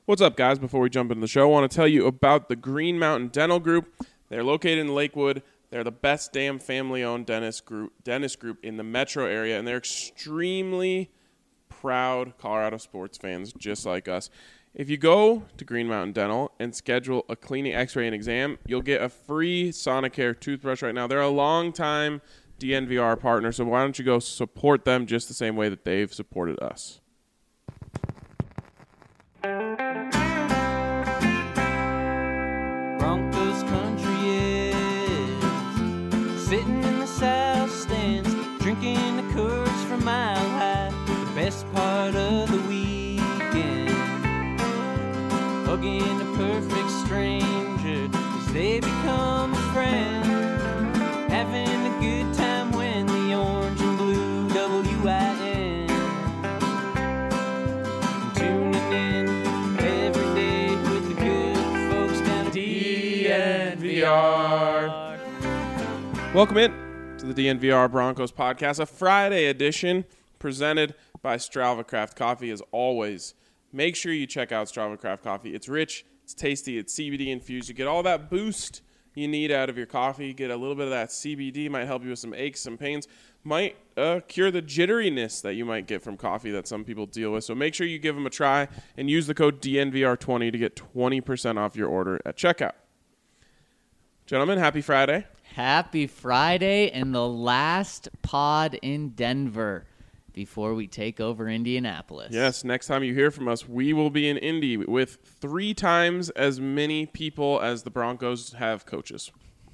What's up, guys? Before we jump into the show, I want to tell you about the Green Mountain Dental Group. They're located in Lakewood. They're the best damn family-owned dentist group in the metro area, and they're extremely proud Colorado sports fans just like us. If you go to Green Mountain Dental and schedule a cleaning, x-ray, and exam, you'll get a free Sonicare toothbrush right now. They're a long-time DNVR partner, so why don't you go support them just the same way that they've supported us. Broncos country is sitting in the south stands, drinking the Coors from Mile High. The best part of the weekend, hugging a perfect stranger as they become a friend, having a good time when the orange and blue WIN, tuning in every day with the good folks down at DNVR. Welcome in to the DNVR Broncos podcast, a Friday edition presented by Strava Craft Coffee. As always, make sure you check out Strava Craft Coffee. It's rich, it's tasty, it's CBD infused. You get all that boost you need out of your coffee. Get a little bit of that CBD, might help you with some aches, some pains, might cure the jitteriness that you might get from coffee that some people deal with. So make sure you give them a try and use the code DNVR20 to get 20% off your order at checkout. Gentlemen, happy Friday. Happy Friday and the last pod in Denver before we take over Indianapolis. Yes, next time you hear from us, we will be in Indy with 3 times as many people as the Broncos have coaches.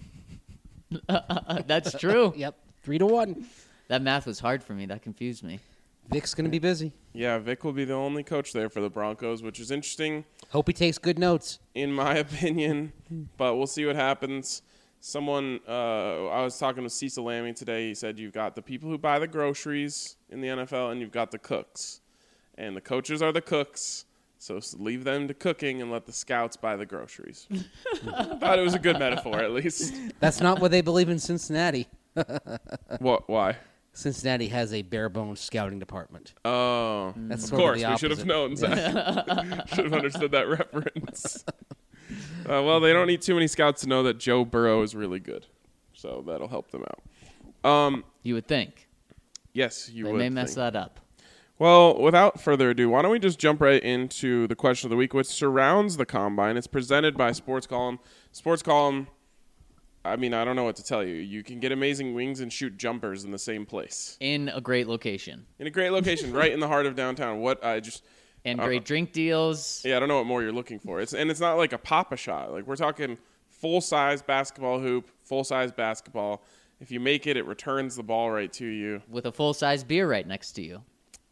That's true. Yep, 3-1. That math was hard for me. That confused me. Vic's going to be busy. Yeah, Vic will be the only coach there for the Broncos, which is interesting. Hope he takes good notes. In my opinion, but we'll see what happens. Someone, I was talking to Cecil Lammy today. He said you've got the people who buy the groceries in the NFL and you've got the cooks. And the coaches are the cooks, so leave them to cooking and let the scouts buy the groceries. Thought it was a good metaphor, at least. That's not what they believe in Cincinnati. What? Why? Cincinnati has a bare-bones scouting department. Oh, That's of sort course. the We should have opposite. known, Zach. Should have understood that reference. Well, they don't need too many scouts to know that Joe Burrow is really good. So that'll help them out. You would think. Yes, you They would may mess think. that up. Well, without further ado, why don't we just jump right into the question of the week, which surrounds the Combine. It's presented by Sports Column. Sports Column, I mean, I don't know what to tell you. You can get amazing wings and shoot jumpers in the same place. In a great location. In a great location, right in the heart of downtown. And great drink deals. Yeah, I don't know what more you're looking for. It's not like a pop-a shot. Like, we're talking full-size basketball hoop, full-size basketball. If you make it, it returns the ball right to you. With a full-size beer right next to you.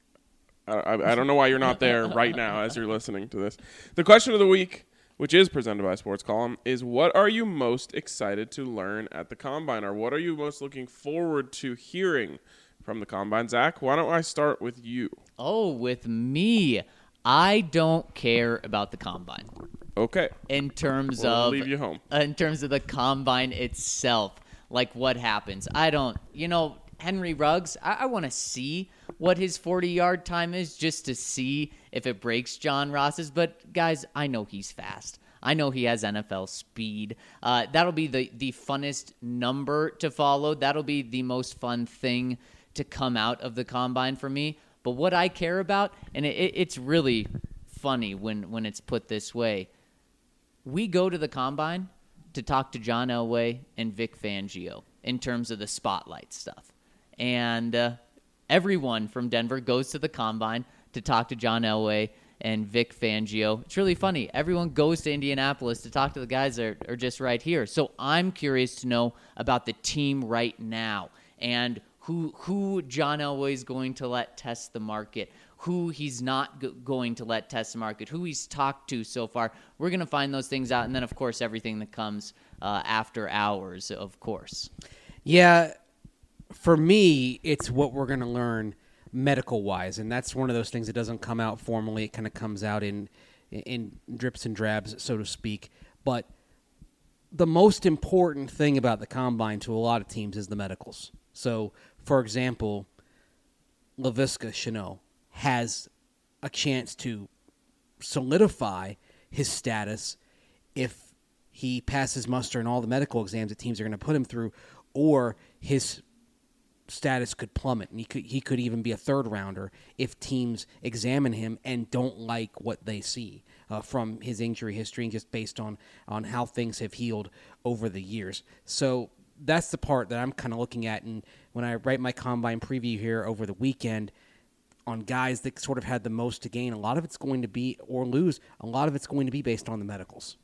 I don't know why you're not there right now as you're listening to this. The question of the week, which is presented by Sports Column, is what are you most excited to learn at the Combine? Or what are you most looking forward to hearing from the Combine? Zach, why don't I start with you? Oh, with me. I don't care about the Combine. Okay. In terms We'll of leave you home. In terms of the Combine itself, like what happens. I don't, Henry Ruggs, I want to see what his 40-yard time is just to see if it breaks John Ross's. But, guys, I know he's fast. I know he has NFL speed. That'll be the funnest number to follow. That'll be the most fun thing to come out of the Combine for me. But what I care about, and it's really funny when it's put this way, we go to the Combine to talk to John Elway and Vic Fangio in terms of the spotlight stuff. And everyone from Denver goes to the Combine to talk to John Elway and Vic Fangio. It's really funny. Everyone goes to Indianapolis to talk to the guys that are just right here. So I'm curious to know about the team right now and who John Elway is going to let test the market, who he's not going to let test the market, who he's talked to so far. We're going to find those things out. And then, of course, everything that comes after hours, of course. Yeah, for me, it's what we're going to learn medical-wise, and that's one of those things that doesn't come out formally. It kind of comes out in drips and drabs, so to speak. But the most important thing about the Combine to a lot of teams is the medicals. So, for example, Laviska Shenault has a chance to solidify his status if he passes muster in all the medical exams that teams are going to put him through, or his status could plummet, and he could even be a third rounder if teams examine him and don't like what they see from his injury history and just based on how things have healed over the years. So that's the part that I'm kind of looking at, and when I write my combine preview here over the weekend on guys that sort of had the most to gain, a lot of it's going to be, or lose, a lot of it's going to be based on the medicals.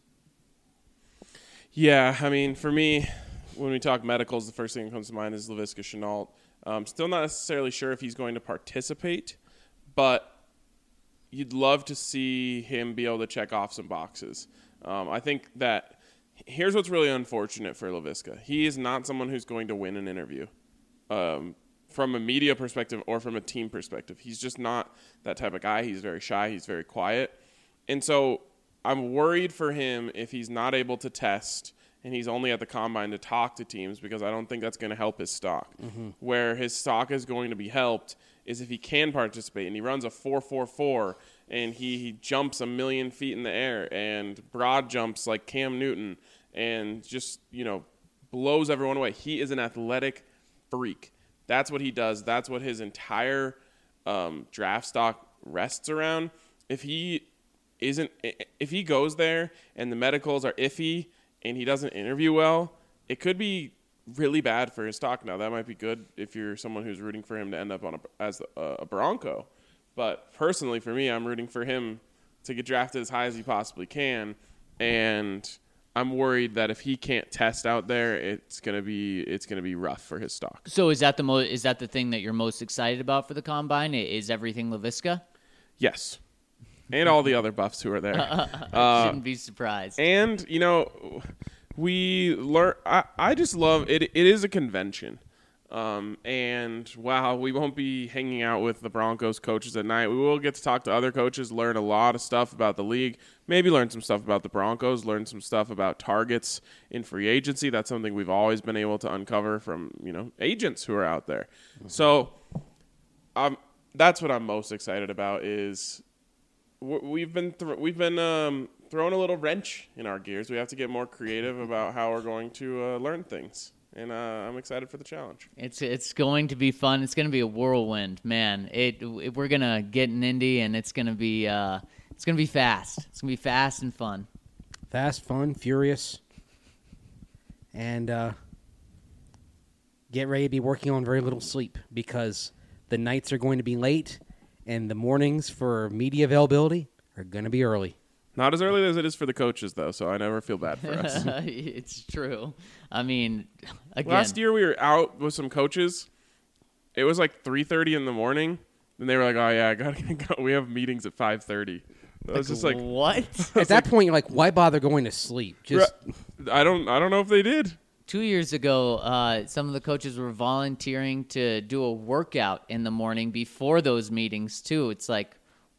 Yeah, I mean, for me, when we talk medicals, the first thing that comes to mind is Laviska Shenault. Still not necessarily sure if he's going to participate, but you'd love to see him be able to check off some boxes. I think that here's what's really unfortunate for Laviska. He is not someone who's going to win an interview from a media perspective or from a team perspective. He's just not that type of guy. He's very shy. He's very quiet. And so I'm worried for him if he's not able to test and he's only at the combine to talk to teams, because I don't think that's going to help his stock. Mm-hmm. Where his stock is going to be helped is if he can participate and he runs a 4.44 and he jumps 1,000,000 feet in the air and broad jumps like Cam Newton and just, blows everyone away. He is an athletic freak. That's what he does. That's what his entire draft stock rests around. If he goes there and the medicals are iffy and he doesn't interview well, it could be really bad for his stock. Now, that might be good if you're someone who's rooting for him to end up as a Bronco. But personally, for me, I'm rooting for him to get drafted as high as he possibly can. And I'm worried that if he can't test out there, it's gonna be rough for his stock. So is that the thing that you're most excited about for the combine? Is everything Laviska? Yes. And all the other buffs who are there. Shouldn't be surprised. And, we learn. I just love it. It is a convention. And while we won't be hanging out with the Broncos coaches at night, we will get to talk to other coaches, learn a lot of stuff about the league, maybe learn some stuff about the Broncos, learn some stuff about targets in free agency. That's something we've always been able to uncover from, agents who are out there. Mm-hmm. So that's what I'm most excited about is we've been throwing a little wrench in our gears. We have to get more creative about how we're going to learn things, and I'm excited for the challenge. It's going to be fun. It's going to be a whirlwind, man. We're gonna get in Indy, and it's gonna be fast. It's gonna be fast and fun. Fast, fun, furious, and get ready to be working on very little sleep because the nights are going to be late. And the mornings for media availability are going to be early. Not as early as it is for the coaches, though, so I never feel bad for us. It's true. I mean, again. Last year we were out with some coaches. It was like 3:30 in the morning, and they were like, "Oh yeah, I gotta go. We have meetings at 5:30." I was just like, "What?" At that point, you're like, "Why bother going to sleep?" I don't know if they did. 2 years ago, some of the coaches were volunteering to do a workout in the morning before those meetings, too. It's like,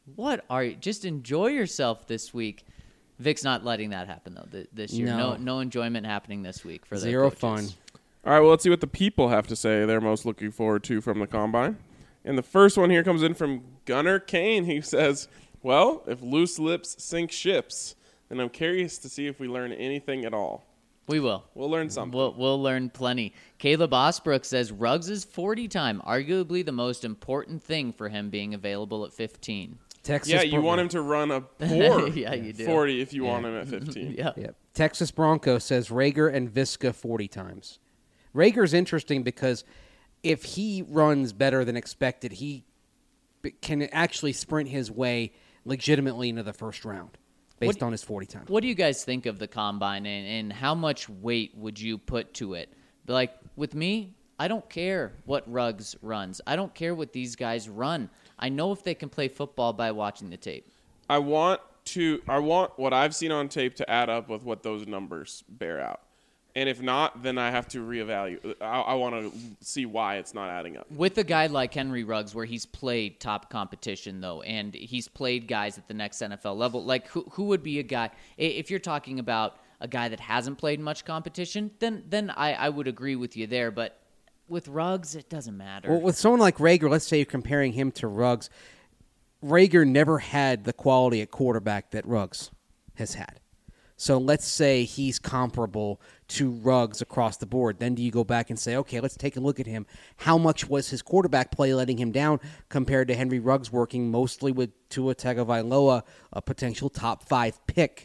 just enjoy yourself this week. Vic's not letting that happen, though, this year. No enjoyment happening this week for the Zero coaches. fun. All right, well, let's see what the people have to say they're most looking forward to from the Combine. And the first one here comes in from Gunnar Kane. He says, well, if loose lips sink ships, then I'm curious to see if we learn anything at all. We will. We'll learn something. We'll learn plenty. Caleb Osbrook says Ruggs' 40 time, arguably the most important thing for him being available at 15. Texas you want him to run a poor yeah, you do. 40 if you want him at 15. Yeah. Texas Bronco says Rager and Viska 40 times. Rager's interesting because if he runs better than expected, he can actually sprint his way legitimately into the first round. Based on his 40 times. What do you guys think of the Combine, and how much weight would you put to it? Like, with me, I don't care what Ruggs runs. I don't care what these guys run. I know if they can play football by watching the tape. I want what I've seen on tape to add up with what those numbers bear out. And if not, then I have to reevaluate. I want to see why it's not adding up. With a guy like Henry Ruggs, where he's played top competition, though, and he's played guys at the next NFL level, like who would be a guy? If you're talking about a guy that hasn't played much competition, then I would agree with you there. But with Ruggs, it doesn't matter. Well, with someone like Rager, let's say you're comparing him to Ruggs, Rager never had the quality at quarterback that Ruggs has had. So let's say he's comparable to Ruggs across the board. Then do you go back and say, okay, let's take a look at him. How much was his quarterback play letting him down compared to Henry Ruggs working mostly with Tua Tagovailoa, a potential top 5 pick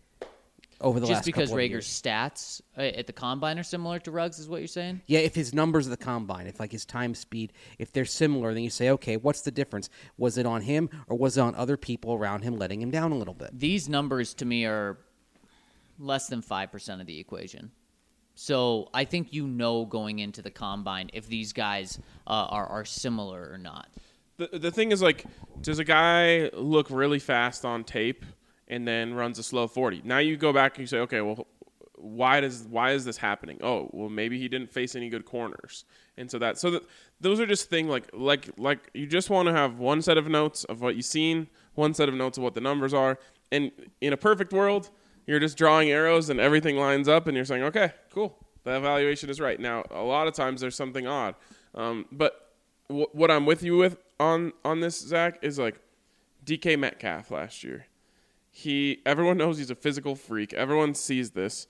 over the last couple of years? Just because Rager's stats at the combine are similar to Ruggs is what you're saying? Yeah, if his numbers at the combine, if like his time speed, if they're similar, then you say, okay, what's the difference? Was it on him or was it on other people around him letting him down a little bit? These numbers to me are less than 5% of the equation. So I think going into the combine if these guys are similar or not. The thing is, like, does a guy look really fast on tape and then runs a slow 40? Now you go back and you say, okay, well, why is this happening? Oh, well, maybe he didn't face any good corners. And so those are just things like you just want to have one set of notes of what you've seen, one set of notes of what the numbers are. And in a perfect world, you're just drawing arrows and everything lines up and you're saying, okay, cool. The evaluation is right. Now, a lot of times there's something odd. But what I'm with you with on this, Zach, is like DK Metcalf last year. Everyone knows he's a physical freak. Everyone sees this.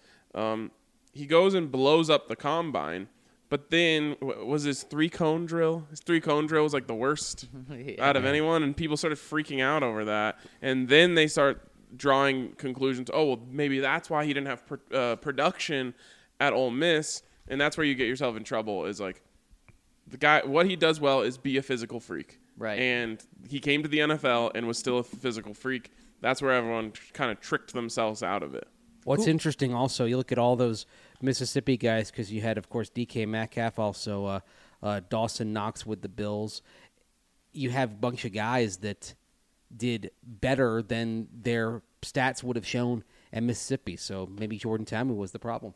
He goes and blows up the combine, but then was his 3-cone drill? His 3-cone drill was like the worst out of anyone, and people started freaking out over that. And then they start drawing conclusions. Oh, well, maybe that's why he didn't have production at Ole Miss, and that's where you get yourself in trouble. Is like the guy. What he does well is be a physical freak, right? And he came to the NFL and was still a physical freak. That's where everyone kind of tricked themselves out of it. What's interesting also, you look at all those Mississippi guys, because you had, of course, DK Metcalf, also Dawson Knox with the Bills. You have a bunch of guys that did better than their stats would have shown at Mississippi. So maybe Jordan Ta'amu was the problem.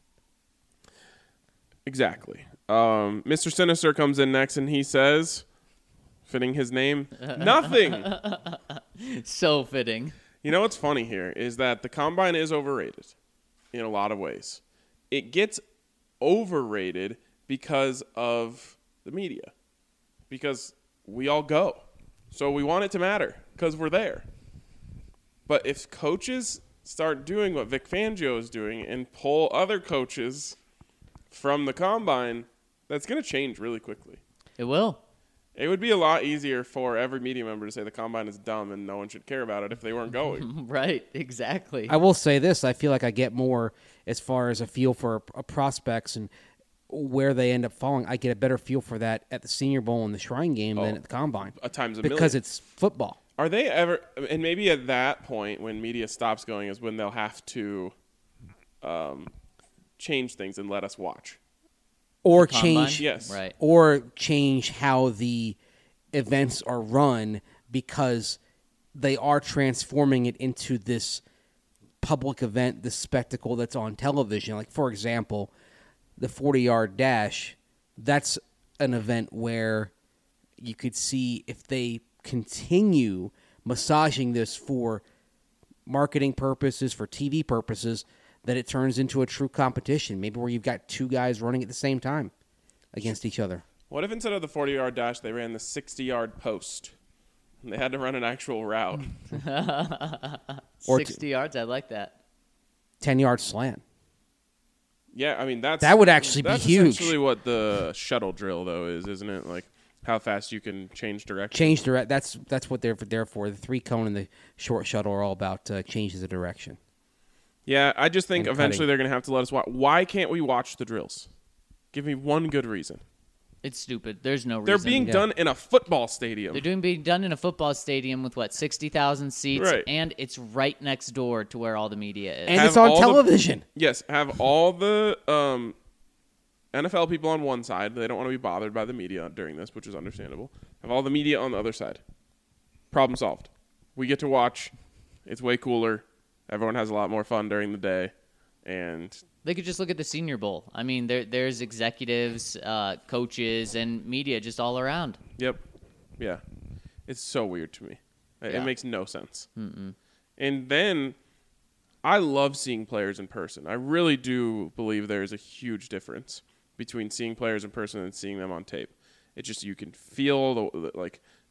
Exactly. Mr. Sinister comes in next, and he says, fitting his name, nothing. So fitting. You know what's funny here is that the combine is overrated in a lot of ways. It gets overrated because of the media, because we all go. So we want it to matter because we're there. But if coaches start doing what Vic Fangio is doing and pull other coaches from the combine, that's going to change really quickly. It will. It would be a lot easier for every media member to say the combine is dumb and no one should care about it if they weren't going. Right, exactly. I will say this. I feel like I get more as far as a feel for prospects and where they end up falling. I get a better feel for that at the Senior Bowl and the Shrine Game than at the combine. Times a million. Because it's football. Are they ever – and maybe at that point when media stops going is when they'll have to change things and let us watch. Or Combine? change, Yes. Right. or change how the events are run because they are transforming it into this public event, this spectacle that's on television. Like, for example, the 40-yard dash, that's an event where you could see if they continue massaging this for marketing purposes, for TV purposes, that it turns into a true competition, maybe where you've got two guys running at the same time against each other. What if instead of the 40-yard dash, they ran the 60-yard post? And they had to run an actual route. Or 60 yards, I like that. 10-yard slant. Yeah, I mean, That would actually be huge. That's essentially what the shuttle drill, though, is, isn't it? Like, how fast you can change direction. Change direct. That's what they're there for. The 3-cone and the short shuttle are all about changes of direction. Yeah, I just think And eventually cutting. they're going to have to let us watch. Why can't we watch the drills? Give me one good reason. It's stupid. There's no reason. They're being done in a football stadium. They're being done in a football stadium with, 60,000 seats, Right. and it's right next door to where all the media is. And Have it's on all the- television. Yes, have all the NFL people on one side. They don't want to be bothered by the media during this, which is understandable. Have all the media on the other side. Problem solved. We get to watch. It's way cooler. Everyone has a lot more fun during the day. And They could just look at the Senior Bowl. I mean, there's executives, coaches, and media just all around. yep. Yeah. It's so weird to me. Yeah. It makes no sense. Mm-mm. And then I love seeing players in person. I really do believe there is a huge difference between seeing players in person and seeing them on tape. It's just you can feel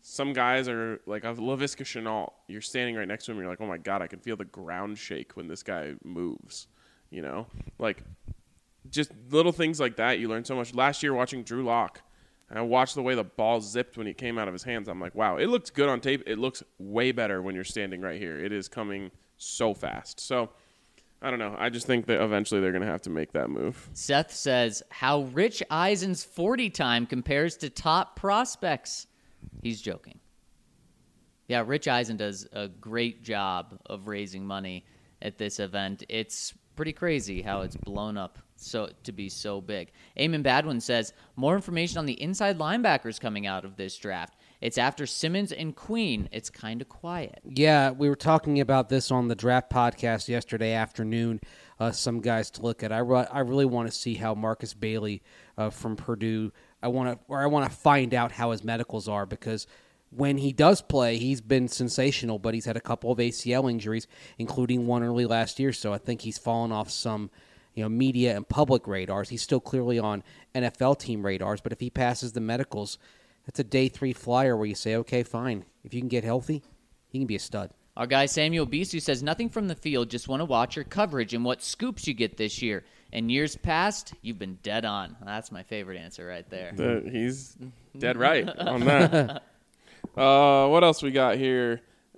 some guys are like Laviska Shenault. You're standing right next to him. You're like, oh my God, I can feel the ground shake when this guy moves. You know, like just little things like that. You learn so much. Last year watching Drew Lock, and I watched the way the ball zipped when he came out of his hands. I'm like, wow, it looks good on tape. It looks way better when you're standing right here. It is coming so fast. So I don't know. I just think that eventually they're going to have to make that move. Seth says how Rich Eisen's 40 time compares to top prospects. He's joking. Yeah, Rich Eisen does a great job of raising money at this event. It's pretty crazy how it's blown up to be so big. Eamon Badwin says more information on the inside linebackers coming out of this draft. It's after Simmons and Queen. It's kind of quiet. Yeah, we were talking about this on the draft podcast yesterday afternoon. Some guys to look at. I really want to see how Marcus Bailey from Purdue. I want to find out how his medicals are, because when he does play, he's been sensational, but he's had a couple of ACL injuries, including one early last year. So I think he's fallen off some, media and public radars. He's still clearly on NFL team radars, but if he passes the medicals, that's a day 3 flyer where you say, okay, fine. If you can get healthy, he can be a stud. Our guy Samuel Bisu says nothing from the field, just want to watch your coverage and what scoops you get this year. In years past, you've been dead on. That's my favorite answer right there. He's dead right on that. What else we got here?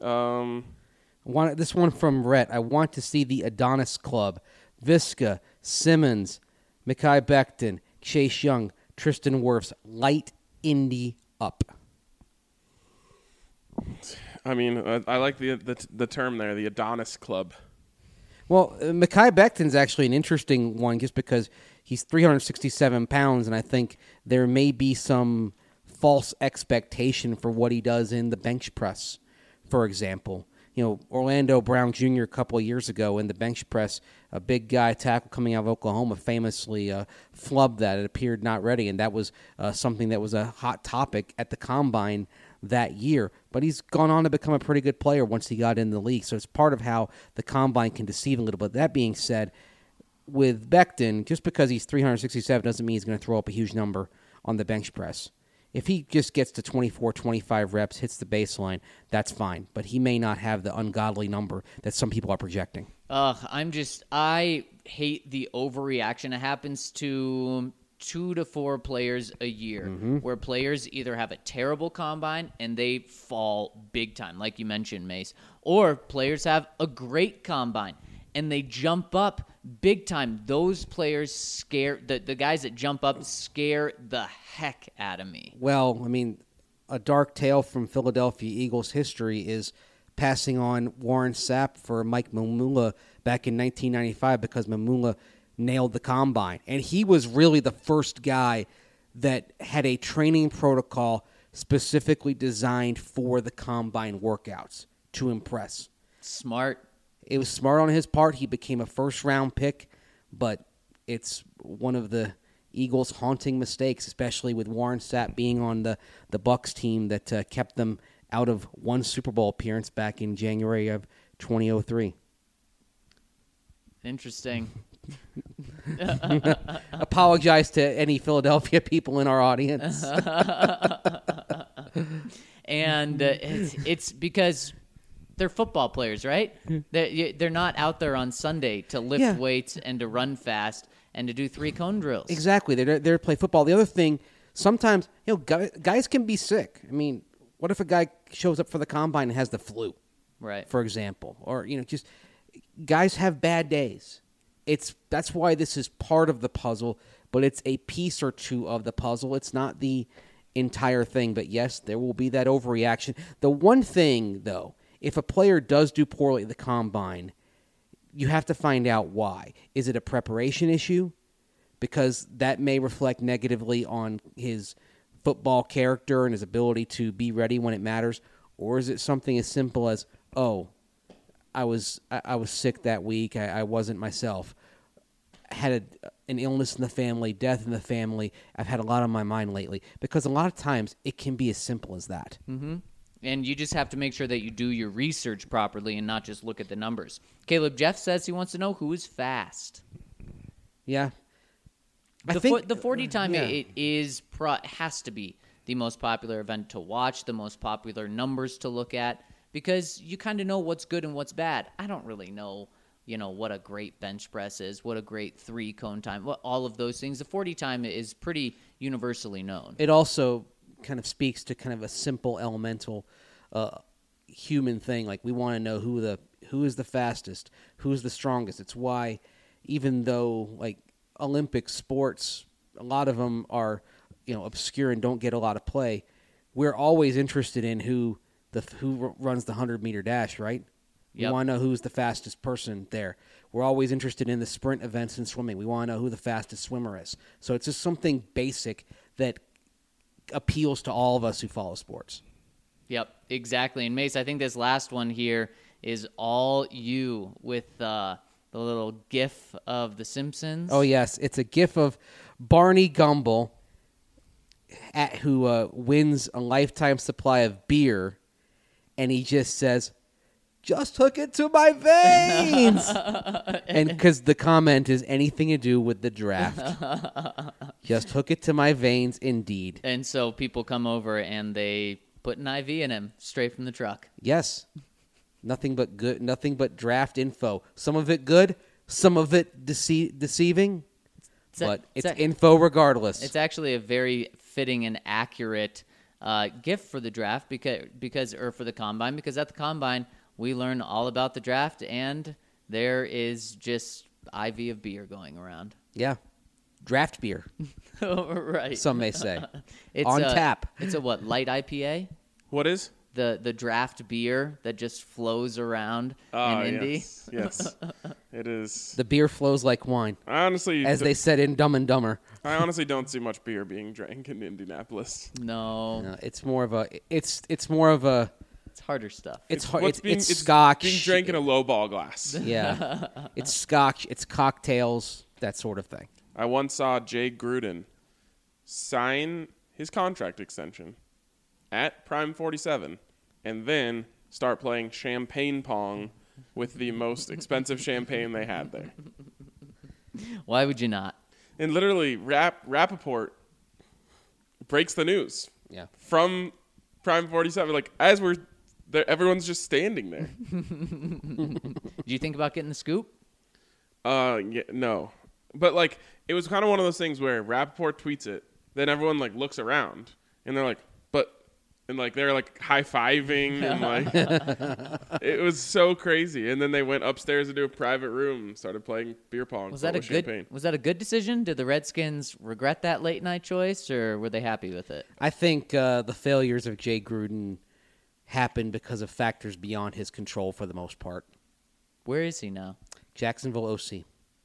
This one from Rhett. I want to see the Adonis Club. Viska, Simmons, Mekhi Becton, Chase Young, Tristan Wirfs. Light Indy up. I mean, I like the term there, the Adonis Club. Well, Mekhi Becton's actually an interesting one just because he's 367 pounds, and I think there may be some false expectation for what he does in the bench press, for example. Orlando Brown Jr. a couple of years ago in the bench press, a big guy tackle coming out of Oklahoma famously flubbed that. It appeared not ready, and that was something that was a hot topic at the Combine that year. But he's gone on to become a pretty good player once he got in the league, so it's part of how the Combine can deceive a little bit. That being said, with Becton, just because he's 367 doesn't mean he's going to throw up a huge number on the bench press. If he just gets to 24, 25 reps, hits the baseline, that's fine. But he may not have the ungodly number that some people are projecting. I hate the overreaction. It happens to 2 to 4 players a year, where players either have a terrible combine and they fall big time, like you mentioned, Mace, or players have a great combine and they jump up big time. Those players scare the guys that jump up scare the heck out of me. Well, I mean, a dark tale from Philadelphia Eagles history is passing on Warren Sapp for Mike Mamula back in 1995 because Mamula nailed the combine. And he was really the first guy that had a training protocol specifically designed for the combine workouts to impress. Smart. It was smart on his part. He became a first-round pick, but it's one of the Eagles' haunting mistakes, especially with Warren Sapp being on the Bucs team that kept them out of one Super Bowl appearance back in January of 2003. Interesting. Apologize to any Philadelphia people in our audience. And it's because they're football players, right? They're not out there on Sunday to lift weights and to run fast and to do 3 cone drills. Exactly. They're there to play football. The other thing, sometimes guys can be sick. I mean, what if a guy shows up for the combine and has the flu, right? For example, or just guys have bad days. That's why this is part of the puzzle, but it's a piece or two of the puzzle. It's not the entire thing. But yes, there will be that overreaction. The one thing, though, if a player does do poorly at the combine, you have to find out why. Is it a preparation issue? Because that may reflect negatively on his football character and his ability to be ready when it matters. Or is it something as simple as, I was sick that week. I wasn't myself. I had an illness in the family, death in the family. I've had a lot on my mind lately. Because a lot of times it can be as simple as that. Mm-hmm. And you just have to make sure that you do your research properly and not just look at the numbers. Caleb Jeff says he wants to know who is fast. Yeah. The 40 time it has to be the most popular event to watch, the most popular numbers to look at, because you kind of know what's good and what's bad. I don't really know, what a great bench press is, what a great 3-cone time, what all of those things. The 40 time is pretty universally known. It also kind of speaks to kind of a simple, elemental human thing. Like, we want to know who is the fastest, who's the strongest. It's why, even though like Olympic sports, a lot of them are obscure and don't get a lot of play, we're always interested in who runs the 100-meter dash, right? Yep. We want to know who's the fastest person there. We're always interested in the sprint events in swimming. We want to know who the fastest swimmer is. So it's just something basic that appeals to all of us who follow sports. Yep, exactly. And Mace, I think this last one here is all you with the little GIF of The Simpsons. Oh, yes. It's a GIF of Barney Gumble who wins a lifetime supply of beer, and he just says, "Just hook it to my veins." And because the comment is anything to do with the draft. Just hook it to my veins, indeed. And so people come over and they put an IV in him straight from the truck. Yes. Nothing but good, nothing but draft info. Some of it good, some of it deceiving, but it's info regardless. It's actually a very fitting and accurate gift for the draft because for the combine, because at the combine we learn all about the draft, and there is just IV of beer going around. Yeah. Draft beer. Right. Some may say. It's on tap. It's a what, light IPA? What is? The draft beer that just flows around in Indy. Yes. It is. The beer flows like wine. As they said in Dumb and Dumber. I honestly don't see much beer being drank in Indianapolis. No, it's more of a. It's harder stuff. It's hard. It's scotch. Being drank in a low ball glass. Yeah, it's scotch. It's cocktails. That sort of thing. I once saw Jay Gruden sign his contract extension at Prime 47 and then start playing champagne pong with the most expensive champagne they had there. Why would you not? And literally, Rappaport breaks the news. Yeah. From Prime 47, like as we're there, everyone's just standing there. Do you think about getting the scoop? Yeah, no. But like it was kind of one of those things where Rappaport tweets it, then everyone like looks around and they're like, and like they're like high-fiving and like it was so crazy. And then they went upstairs into a private room and started playing beer pong. Was that a good decision? Did the Redskins regret that late night choice, or were they happy with it? I think the failures of Jay Gruden happened because of factors beyond his control for the most part. Where is he now? Jacksonville OC.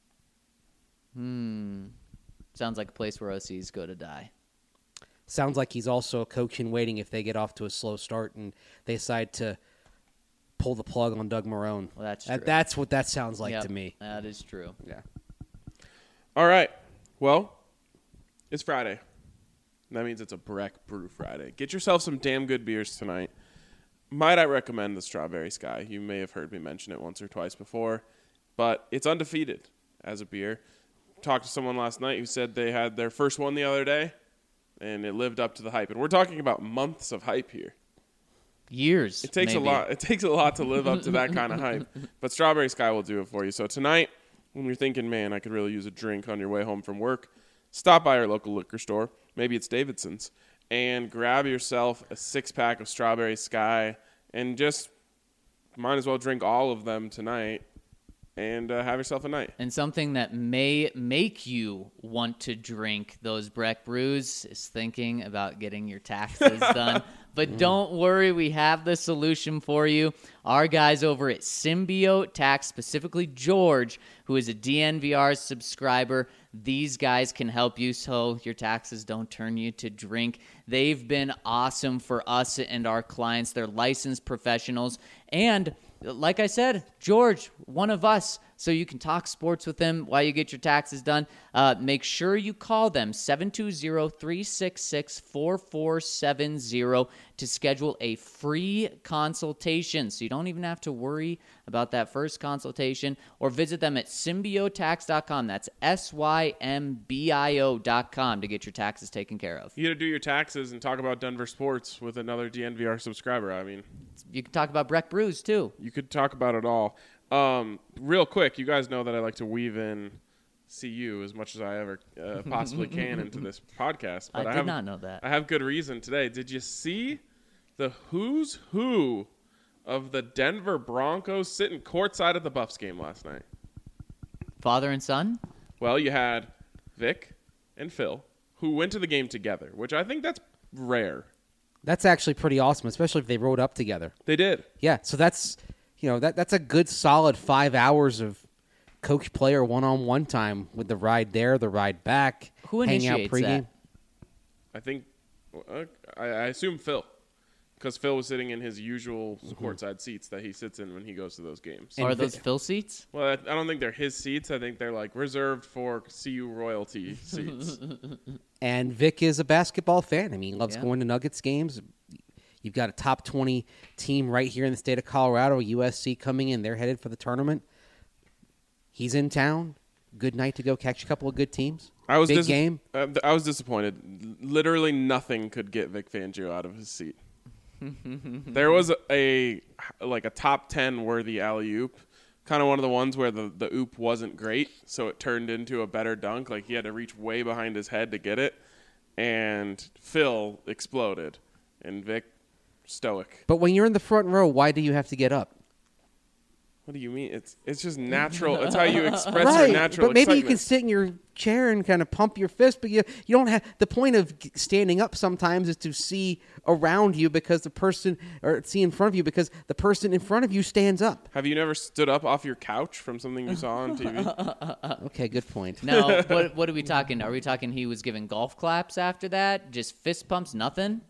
Sounds like a place where OCs go to die. Sounds like he's also a coach in waiting if they get off to a slow start and they decide to pull the plug on Doug Marrone. Well, that's true. That's what that sounds like to me. That is true. Yeah. All right. Well, it's Friday. That means it's a Breck Brew Friday. Get yourself some damn good beers tonight. Might I recommend the Strawberry Sky? You may have heard me mention it once or twice before, but it's undefeated as a beer. Talked to someone last night who said they had their first one the other day, and it lived up to the hype. And we're talking about months of hype here. Years. It takes maybe. a lot. It takes a lot to live up to that kind of hype. But Strawberry Sky will do it for you. So tonight, when you're thinking, man, I could really use a drink on your way home from work, stop by your local liquor store. Maybe it's Davidson's. And grab yourself a 6-pack of Strawberry Sky and just might as well drink all of them tonight. And have yourself a night. And something that may make you want to drink those Breck brews is thinking about getting your taxes done. But don't worry, we have the solution for you. Our guys over at Symbiote Tax, specifically George, who is a DNVR subscriber, these guys can help you so your taxes don't turn you to drink. They've been awesome for us and our clients. They're licensed professionals. And like I said, George, one of us, so you can talk sports with them while you get your taxes done. Make sure you call them 720-366-4470 to schedule a free consultation. So you don't even have to worry about that first consultation, or visit them at symbiotax.com. That's symbio.com to get your taxes taken care of. You got to do your taxes and talk about Denver sports with another DNVR subscriber. I mean, You can talk about Breck Brews too. you could talk about it all. Real quick, you guys know that I like to weave in CU as much as I ever possibly can into this podcast. But I did not know that. I have good reason today. Did you see the who's who of the Denver Broncos sitting courtside at the Buffs game last night? Father and son? Well, you had Vic and Phil, who went to the game together, which I think that's rare. That's actually pretty awesome, especially if they rode up together. They did. Yeah, so that's that's a good solid 5 hours of coach-player one-on-one time with the ride there, the ride back, Who hang out initiates pregame. that? I think I assume Phil, because Phil was sitting in his usual courtside seats that he sits in when he goes to those games. Are those Phil seats? Well, I don't think they're his seats. I think they're like reserved for CU royalty seats. And Vic is a basketball fan. I mean, he loves Yeah. going to Nuggets games. You've got a top 20 team right here in the state of Colorado, USC coming in. They're headed for the tournament. He's in town. Good night to go catch a couple of good teams. Big game. I was disappointed. Literally nothing could get Vic Fangio out of his seat. There was a top 10 worthy alley-oop, kind of one of the ones where the oop wasn't great, so it turned into a better dunk. Like he had to reach way behind his head to get it, and Phil exploded, and Vic stoic. But when you're in the front row, why do you have to get up? What do you mean? It's just natural. It's how you express your natural but maybe you excitement. can sit in your chair and kind of pump your fist, but you don't have the point of standing up sometimes is to see around you because the person or see in front of you because the person in front of you stands up. Have you never stood up off your couch from something you saw on TV? Okay, good point. No, what are we talking? Are we talking he was giving golf claps after that? Just fist pumps, nothing?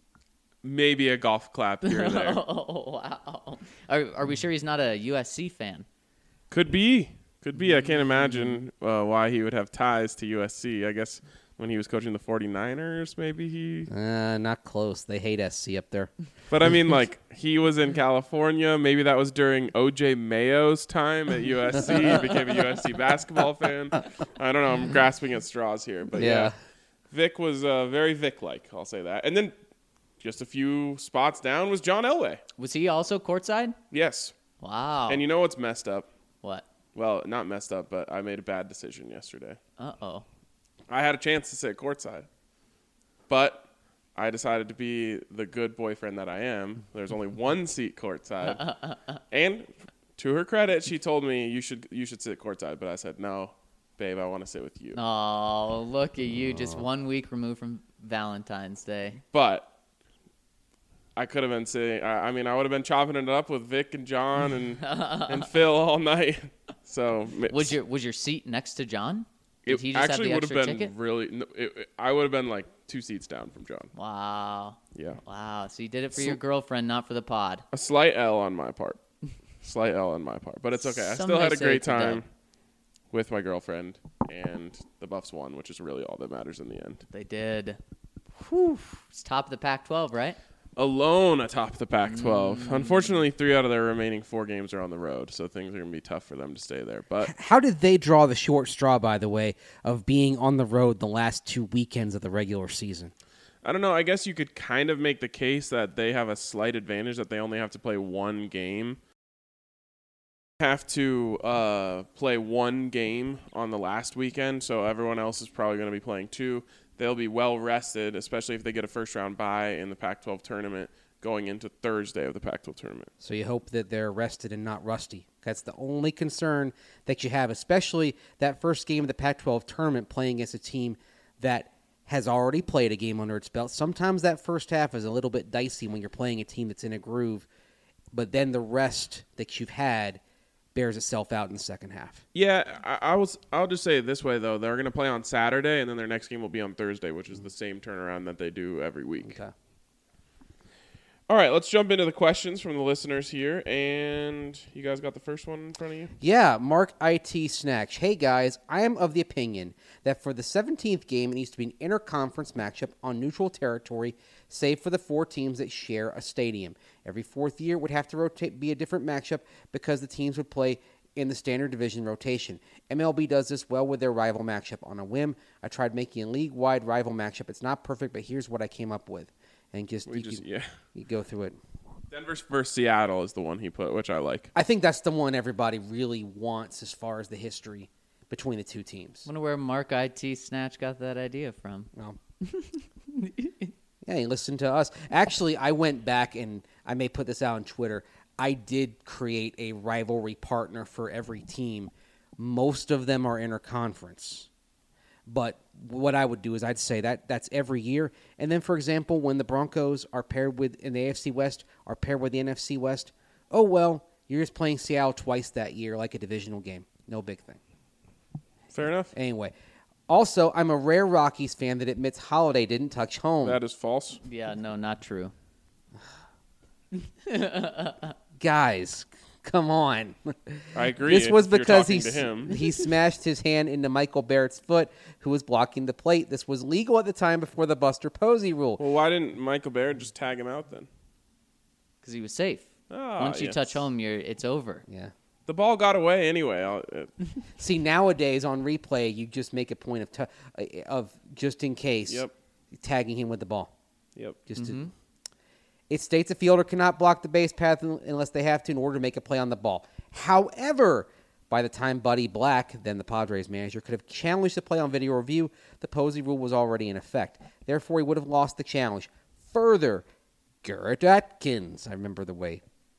Maybe a golf clap here or there. Oh, wow. Are we sure he's not a USC fan? Could be. I can't imagine why he would have ties to USC. I guess when he was coaching the 49ers, maybe he... Not close. They hate SC up there. But, I mean, like, he was in California. Maybe that was during O.J. Mayo's time at USC. He became a USC basketball fan. I don't know. I'm grasping at straws here. But, yeah. Vic was very Vic-like, I'll say that. And then just a few spots down was John Elway. Was he also courtside? Yes. Wow. And you know what's messed up? What? Well, not messed up, but I made a bad decision yesterday. Uh-oh. I had a chance to sit courtside, but I decided to be the good boyfriend that I am. There's only one seat courtside, and to her credit, she told me you should sit courtside. But I said no, babe, I want to sit with you. Oh, look at you, just 1 week removed from Valentine's Day. But I could have been sitting. I mean, I would have been chopping it up with Vic and John and Phil all night. So Was your seat next to John? Did it he just actually have would the have extra been ticket? really. I would have been like 2 seats down from John. Wow. Yeah. Wow. So you did it for your girlfriend, not for the pod. A slight L on my part. But it's okay. I Some still had may a say great it's a dub. time with my girlfriend, and the Buffs won, which is really all that matters in the end. They did. Whew. It's top of the Pac-12, right? Alone atop the Pac-12. Unfortunately, 3 out of their remaining 4 games are on the road, so things are going to be tough for them to stay there. But How did they draw the short straw, by the way, of being on the road the last 2 weekends of the regular season? I don't know. I guess you could kind of make the case that they have a slight advantage that they only have to play 1 game. Have to play 1 game on the last weekend, so everyone else is probably going to be playing 2. They'll be well rested, especially if they get a first-round bye in the Pac-12 tournament going into Thursday of the Pac-12 tournament. So you hope that they're rested and not rusty. That's the only concern that you have, especially that first game of the Pac-12 tournament playing against a team that has already played a game under its belt. Sometimes that first half is a little bit dicey when you're playing a team that's in a groove, but then the rest that you've had bears itself out in the second half. Yeah, I'll just say it this way, though. They're going to play on Saturday, and then their next game will be on Thursday, which is the same turnaround that they do every week. Okay. All right, let's jump into the questions from the listeners here. And you guys got the first one in front of you? Yeah, Mark IT Snatch. Hey guys, I am of the opinion that for the 17th game, it needs to be an interconference matchup on neutral territory, save for the 4 teams that share a stadium. Every 4th year would have to rotate, be a different matchup because the teams would play in the standard division rotation. MLB does this well with their rival matchup. On a whim, I tried making a league-wide rival matchup. It's not perfect, but here's what I came up with. And you go through it. Denver versus Seattle is the one he put, which I like. I think that's the one everybody really wants as far as the history between the two teams. Wonder where Mark IT Snatch got that idea from. Well, yeah, he listened to us. Actually, I went back and I may put this out on Twitter. I did create a rivalry partner for every team. Most of them are interconference. But what I would do is I'd say that's every year. And then, for example, when the Broncos are paired with, in the AFC West, are paired with the NFC West, oh, well, you're just playing Seattle twice that year like a divisional game. No big thing. Fair enough. Anyway. Also, I'm a rare Rockies fan that admits Holiday didn't touch home. That is false. Yeah, no, not true. Guys, come on. I agree. This was if you're because talking to him. he smashed his hand into Michael Barrett's foot, who was blocking the plate. This was legal at the time before the Buster Posey rule. Well, why didn't Michael Barrett just tag him out then? Because he was safe. Once you yes. touch home, it's over. Yeah. The ball got away anyway. See, nowadays on replay, you just make a point of just in case tagging him with the ball. Yep. It states a fielder cannot block the base path unless they have to in order to make a play on the ball. However, by the time Buddy Black, then the Padres manager, could have challenged the play on video review, the Posey rule was already in effect. Therefore, he would have lost the challenge. Further, Garrett Atkins, I remember the way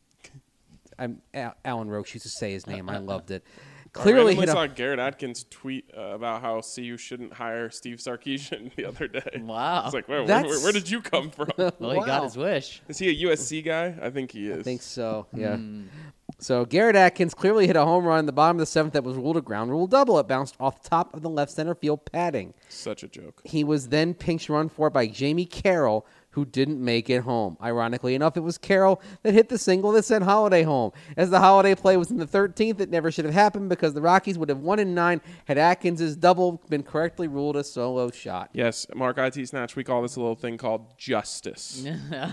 Alan Roach used to say his name. I loved it. Clearly, I saw Garrett Atkins tweet about how CU shouldn't hire Steve Sarkisian the other day. Wow. It's like, where did you come from? Well, he got his wish. Is he a USC guy? I think he is. I think so, yeah. So Garrett Atkins clearly hit a home run in the bottom of the 7th that was ruled a ground rule double. It bounced off the top of the left center field padding. Such a joke. He was then pinch run for by Jamie Carroll, who didn't make it home. Ironically enough, it was Carroll that hit the single that sent Holiday home. As the Holiday play was in the 13th, it never should have happened because the Rockies would have won in 9 had Atkins' double been correctly ruled a solo shot. Yes, Mark IT Snatch, we call this a little thing called justice.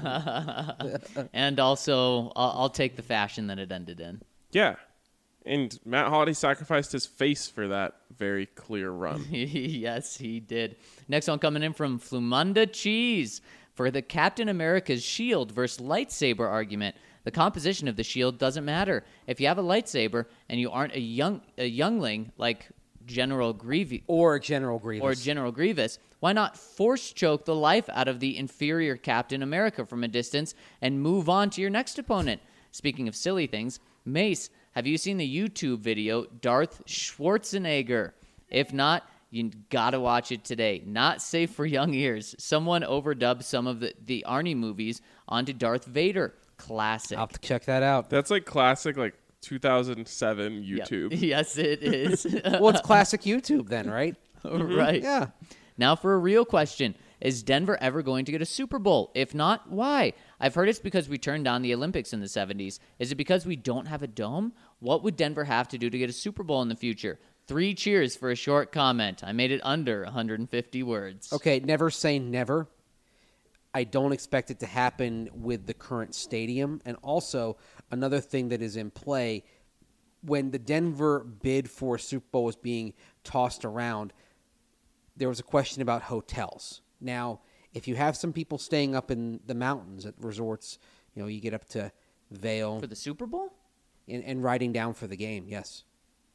And also, I'll take the fashion that it ended in. Yeah. And Matt Holiday sacrificed his face for that very clear run. Yes, he did. Next one coming in from Flumunda Cheese. For the Captain America's shield versus lightsaber argument, the composition of the shield doesn't matter. If you have a lightsaber and you aren't a youngling like General Grievous or General Grievous, why not force choke the life out of the inferior Captain America from a distance and move on to your next opponent? Speaking of silly things, Mace, have you seen the YouTube video Darth Schwarzenegger? If not, you gotta watch it today. Not safe for young ears. Someone overdubbed some of the Arnie movies onto Darth Vader. Classic. I'll have to check that out. That's like classic, like 2007 YouTube. Yep. Yes, it is. Well, it's classic YouTube then, right? Right. Yeah. Now for a real question. Is Denver ever going to get a Super Bowl? If not, why? I've heard it's because we turned down the Olympics in the 70s. Is it because we don't have a dome? What would Denver have to do to get a Super Bowl in the future? 3 cheers for a short comment. I made it under 150 words. Okay, never say never. I don't expect it to happen with the current stadium. And also, another thing that is in play, when the Denver bid for a Super Bowl was being tossed around, there was a question about hotels. Now, if you have some people staying up in the mountains at resorts, you get up to Vail. For the Super Bowl? And riding down for the game, yes.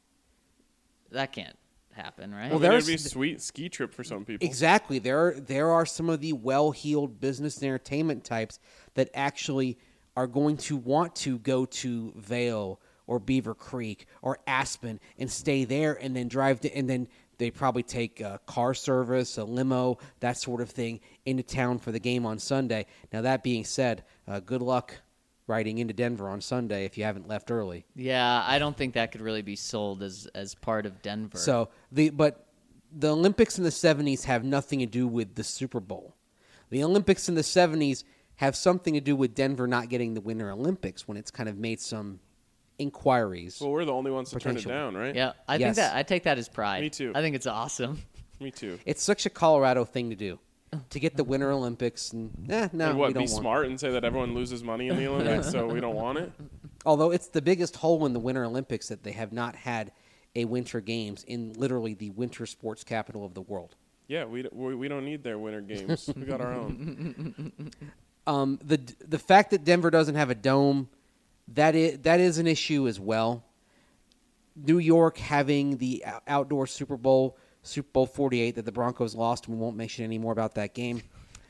That can't happen, right? Well, that would be a sweet ski trip for some people. Exactly. There are some of the well-heeled business and entertainment types that actually are going to want to go to Vail or Beaver Creek or Aspen and stay there and then drive to, and then they probably take a car service, a limo, that sort of thing into town for the game on Sunday. Now, that being said, good luck riding into Denver on Sunday if you haven't left early. Yeah, I don't think that could really be sold as part of Denver. So but the Olympics in the 70s have nothing to do with the Super Bowl. The Olympics in the 70s have something to do with Denver not getting the Winter Olympics when it's kind of made some inquiries. Well, we're the only ones to turn it Potentially. down, right? Yeah, I Yes. think I take that as pride. Me too. I think it's awesome. Me too. It's such a Colorado thing to do, to get the Winter Olympics. And no, And what, we don't be want. smart and say that everyone loses money in the Olympics, so we don't want it? Although it's the biggest hole in the Winter Olympics that they have not had a Winter Games in literally the winter sports capital of the world. Yeah, we don't need their winter games. We got our own. The fact that Denver doesn't have a dome, that is an issue as well. New York having the outdoor Super Bowl 48 that the Broncos lost. We won't mention any more about that game.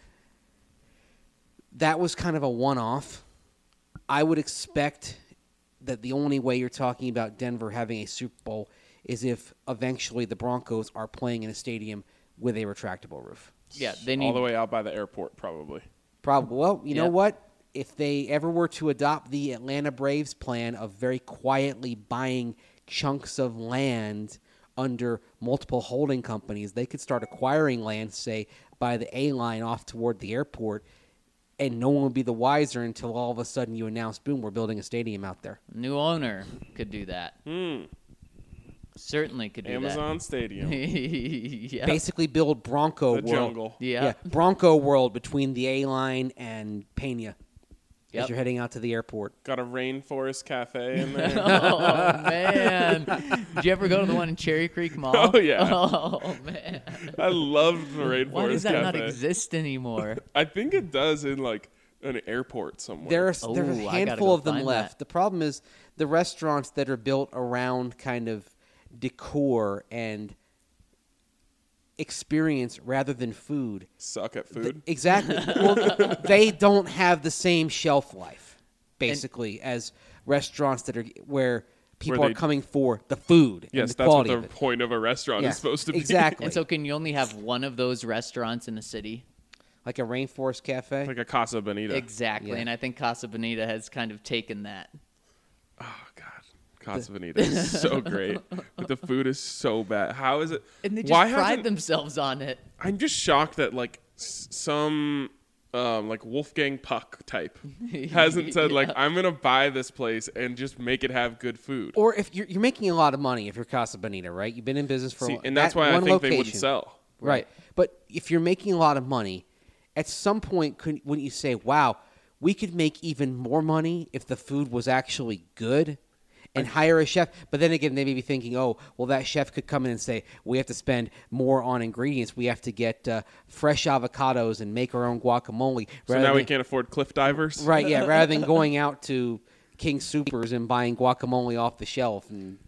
That was kind of a one-off. I would expect that the only way you're talking about Denver having a Super Bowl is if eventually the Broncos are playing in a stadium with a retractable roof. Yeah, they need All the way out by the airport, probably. Probably. Well, you know Yeah. what? If they ever were to adopt the Atlanta Braves plan of very quietly buying chunks of land under multiple holding companies, they could start acquiring land, say, by the A line off toward the airport, and no one would be the wiser until all of a sudden you announce, boom, we're building a stadium out there. new owner could do that. Certainly could do Amazon Stadium. that. Yeah. Basically build Bronco The World. jungle. Yeah. Bronco World between the A line and Pena Yep. as you're heading out to the airport. Got a rainforest cafe in there. Oh man! Did you ever go to the one in Cherry Creek Mall? Oh, yeah. Oh man! I loved the rainforest Why does that cafe. not exist anymore? I think it does in like an airport somewhere. There's Ooh, a I gotta handful go of them find left. that. The problem is the restaurants that are built around kind of decor and experience rather than food. Suck at food. Exactly. Well, they don't have the same shelf life, basically, as restaurants that are where people Where are they- coming for the food and Yes, the that's what quality the of it. point of a restaurant Yeah, is supposed to be. exactly. And so, can you only have one of those restaurants in a city? Like a rainforest cafe. Like a Casa Bonita. Exactly, Yeah. and I think Casa Bonita has kind of taken that. Oh God, Casa Bonita is so great, but the food is so bad. How is it? And they just Why pride hasn't- themselves on it. I'm just shocked that like some like Wolfgang Puck type hasn't said like I'm gonna buy this place and just make it have good food. Or if you're making a lot of money if you're Casa Bonita, right? You've been in business for See, a and that's why I one think they wouldn't location. sell. Right. But if you're making a lot of money, at some point, wouldn't you say, wow, we could make even more money if the food was actually good and hire a chef? But then again, they may be thinking, oh, well, that chef could come in and say, we have to spend more on ingredients. We have to get fresh avocados and make our own guacamole. So rather now we than- can't afford Cliff Divers. Right, yeah, rather than going out to King Soopers and buying guacamole off the shelf. And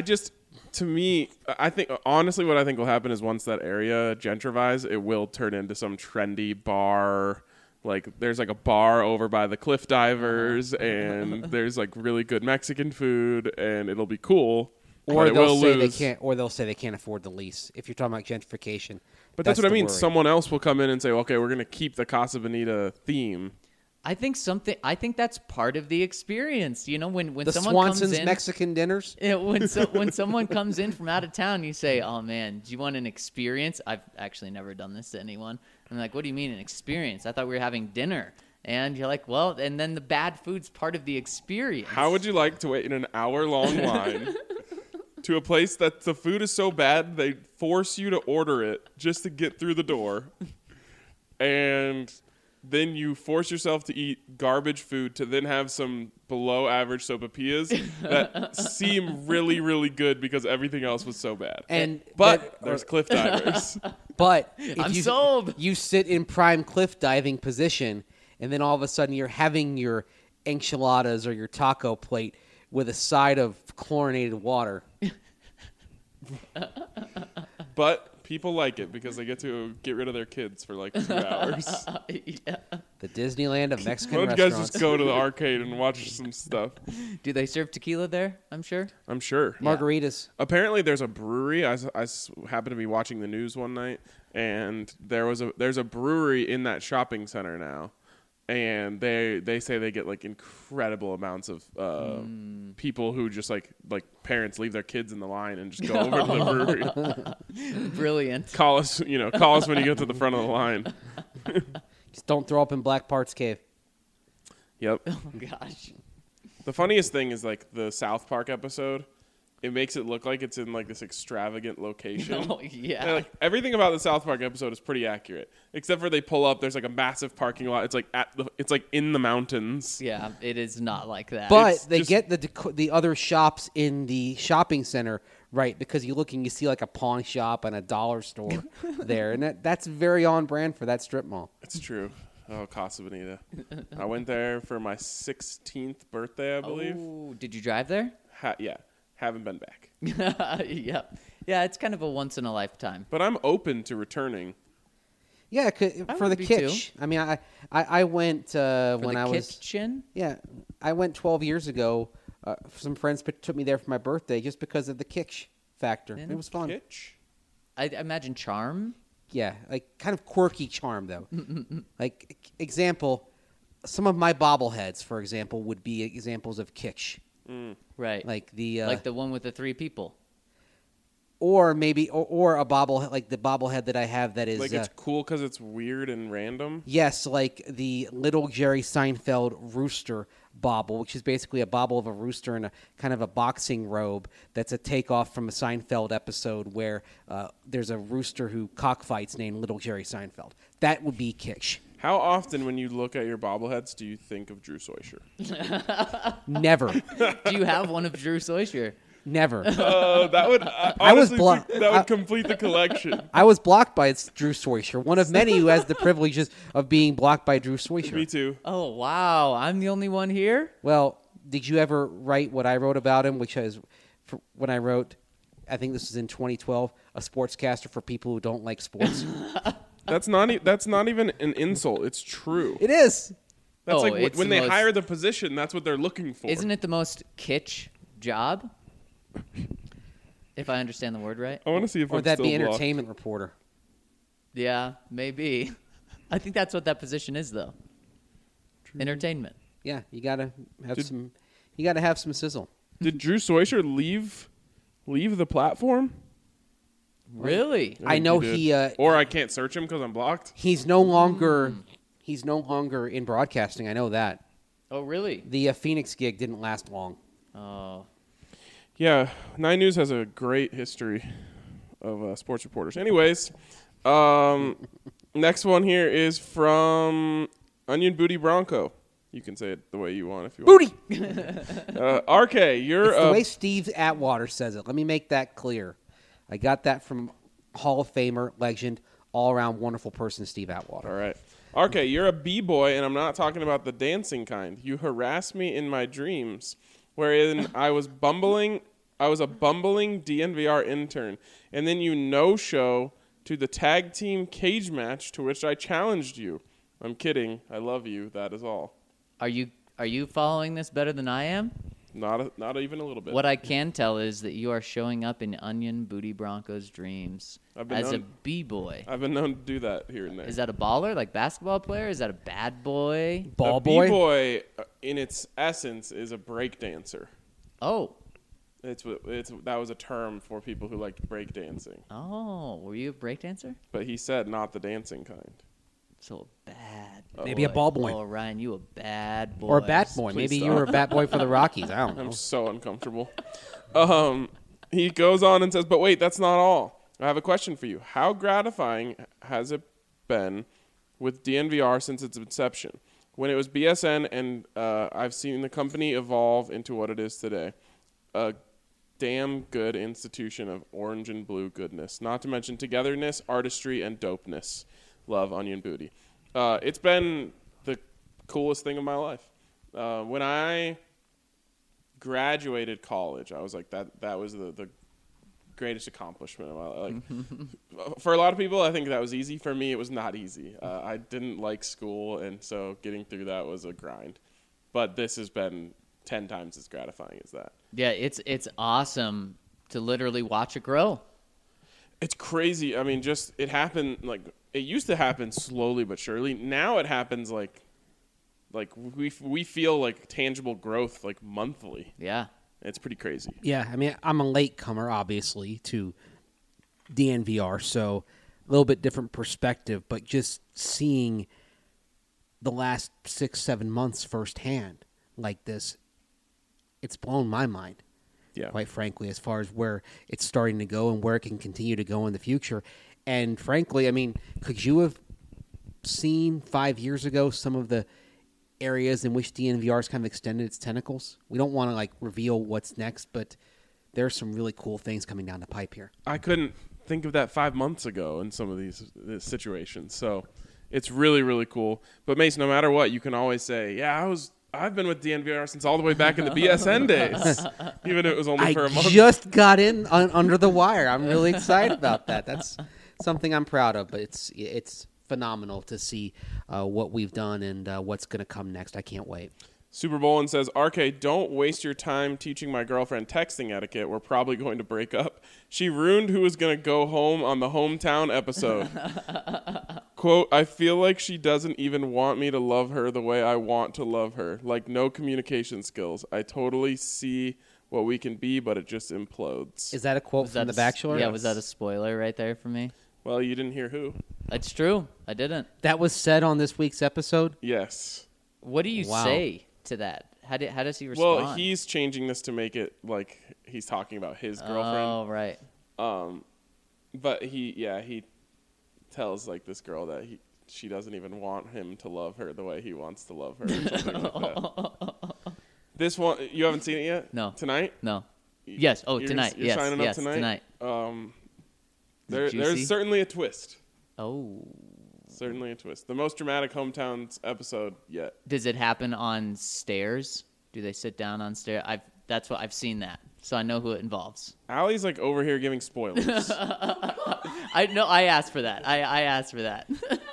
To me, I think honestly, what I think will happen is once that area gentrifies, it will turn into some trendy bar. Like there's like a bar over by the Cliff Divers, and there's like really good Mexican food, and it'll be cool. Or but it they'll will say lose. they can't. Or they'll say they can't afford the lease. If you're talking about gentrification, But that's what I the mean. worry. Someone else will come in and say, "Okay, we're going to keep the Casa Bonita theme." I think that's part of the experience. You know, when the someone Swanson's comes in, Mexican dinners. Yeah, when someone comes in from out of town, you say, "Oh man, do you want an experience?" I've actually never done this to anyone. I'm like, "What do you mean an experience? I thought we were having dinner." And you're like, "Well," and then the bad food's part of the experience. How would you like to wait in an hour-long line to a place that the food is so bad they force you to order it just to get through the door, and then you force yourself to eat garbage food to then have some below-average sopapillas that seem really, really good because everything else was so bad. But there's Cliff Divers. But if I'm sold. You sit in prime cliff diving position, and then all of a sudden you're having your enchiladas or your taco plate with a side of chlorinated water. But people like it because they get to get rid of their kids for like 2 hours. Yeah. The Disneyland of Mexican Why don't you guys restaurants. just go to the arcade and watch some stuff? Do they serve tequila there? I'm sure. I'm sure. Margaritas. Apparently, there's a brewery. I happened to be watching the news one night, and there's a brewery in that shopping center now, and they say they get like incredible amounts of people who just like parents leave their kids in the line and just go over to the brewery. Brilliant. Call us when you get to the front of the line. Just don't throw up in Black Parts Cave. Yep. Oh gosh. The funniest thing is like the South Park episode. It makes it look like it's in like this extravagant location. Oh yeah. And, like everything about the South Park episode is pretty accurate, except for they pull up. There's like a massive parking lot. It's like it's like in the mountains. Yeah, it is not like that. But It's they just- get the other shops in the shopping center right because you look and you see like a pawn shop and a dollar store there, and that's very on brand for that strip mall. It's true. Oh, Casa Bonita. I went there for my 16th birthday, I believe. Oh, did you drive there? Yeah, haven't been back, Yeah. Yeah, it's kind of a once in a lifetime. but I'm open to returning. Yeah, I for the would be too. kitsch. I mean, I went For when the I was kitchen? yeah, I went 12 years ago. Some friends took me there for my birthday just because of the kitsch factor. And It was fun. Kitsch? I imagine charm. Yeah, like kind of quirky charm though. Like example, some of my bobbleheads, for example, would be examples of kitsch. Right. Like the like the one with the 3 people. or maybe or a bobblehead like the bobblehead that I have that is Like it's cool because it's weird and random. yes, like the little Jerry Seinfeld rooster bauble, which is basically a bauble of a rooster in a kind of a boxing robe. That's a takeoff from a Seinfeld episode where there's a rooster who cockfights named Little Jerry Seinfeld. That would be kitsch. How often, when you look at your bobbleheads, do you think of Drew Soicher? Never, Do you have one of Drew Soicher? never. Oh, that would I was honestly blo- think that would complete the collection. I was blocked by Drew Soicher, one of many who has the privileges of being blocked by Drew Soicher. Me too. Oh, wow. I'm the only one here? Well, did you ever write what I wrote about him, which is when I wrote, I think this was in 2012, a sportscaster for people who don't like sports? That's not even an insult. It's true. It is. That's Oh, like it's when the they most- hire the position, that's what they're looking for. Isn't it the most kitsch job? If I understand the word right. I want to see if Or I'm that still be blocked. entertainment reporter. Yeah, maybe. I think that's what that position is, though. Entertainment. Yeah, you gotta have Did- some. You gotta have some sizzle. Did Drew Soicher leave the platform? Really? I know did. he. Or I can't search him because I'm blocked. He's no longer. He's no longer in broadcasting. I know that. Oh, really? The Phoenix gig didn't last long. Oh. Yeah, 9 News has a great history of sports reporters. Anyways, next one here is from Onion Booty Bronco. You can say it the way you want if you want. Booty. RK, you're It's the way Steve Atwater says it. Let me make that clear. I got that from Hall of Famer, legend, all-around wonderful person, Steve Atwater. all right. RK, you're a b-boy, and I'm not talking about the dancing kind. You harassed me in my dreams, wherein I was a bumbling DNVR intern, and then you no-show to the tag team cage match to which I challenged you. I'm kidding. I love you. That is all. Are you following this better than I am? Not even a little bit. What I can tell is that you are showing up in Onion Booty Bronco's dreams I've been as a known- b-boy. I've been known to do that here and there. Is that a baller, like basketball player? Is that a bad boy? Ball a boy? b-boy, in its essence, is a break dancer. Oh. That was a term for people who liked break dancing. Oh, were you a breakdancer? But he said not the dancing kind. So bad. Maybe a ball boy. Oh, Ryan, you a bad boy. Or a bat boy. Please Maybe stop. you were a bat boy for the Rockies. I don't know. I'm so uncomfortable. He goes on and says, but wait, that's not all. I have a question for you. How gratifying has it been with DNVR since its inception? When it was BSN, and I've seen the company evolve into what it is today. A damn good institution of orange and blue goodness. Not to mention togetherness, artistry, and dopeness. Love, Onion Booty. It's been the coolest thing of my life. When I graduated college, I was like, that was the greatest accomplishment of my life. Like, for a lot of people, I think that was easy. For me, it was not easy. I didn't like school, and so getting through that was a grind. But this has been 10 times as gratifying as that. Yeah, it's awesome to literally watch it grow. It's crazy. I mean, just it happened like it used to happen slowly but surely. Now it happens like we feel like tangible growth like monthly. Yeah. It's pretty crazy. Yeah, I mean, I'm a latecomer, obviously, to DNVR, so a little bit different perspective, but just seeing the last 6-7 months firsthand like this, it's blown my mind. Yeah. Quite frankly, as far as where it's starting to go and where it can continue to go in the future. And frankly, I mean, could you have seen 5 years ago some of the areas in which DNVR has kind of extended its tentacles? We don't want to like reveal what's next, but there's some really cool things coming down the pipe here. I couldn't think of that 5 months ago in some of these situations. So it's really, really cool. But Mace, no matter what, you can always say, yeah, I've been with DNVR since all the way back in the BSN days, even if it was only for a month. I just got in under the wire. I'm really excited about that. That's something I'm proud of, but it's phenomenal to see what we've done and what's going to come next. I can't wait. Super Bowlin says, RK, don't waste your time teaching my girlfriend texting etiquette. We're probably going to break up. She ruined who was going to go home on the hometown episode. Quote, I feel like she doesn't even want me to love her the way I want to love her. Like, no communication skills. I totally see what we can be, but it just implodes. Is that a quote from The Bachelor? Yeah, was that a spoiler right there for me? Well, you didn't hear who. That's true. I didn't. That was said on this week's episode? Yes. What do you Wow. say to that? How does he respond? Well, he's changing this to make it like he's talking about his girlfriend. Oh, right. But he tells like this girl that she doesn't even want him to love her the way he wants to love her. Or something like that. This one, you haven't seen it yet? No. Tonight? No. Yes. Oh, You're tonight. You're Yes. signing Yes. up tonight? Is it juicy? There's certainly a twist. Oh. Certainly a twist. The most dramatic Hometowns episode yet. Does it happen on stairs? Do they sit down on stairs? That's what I've seen that, so I know who it involves. Allie's like over here giving spoilers. I asked for that. I asked for that.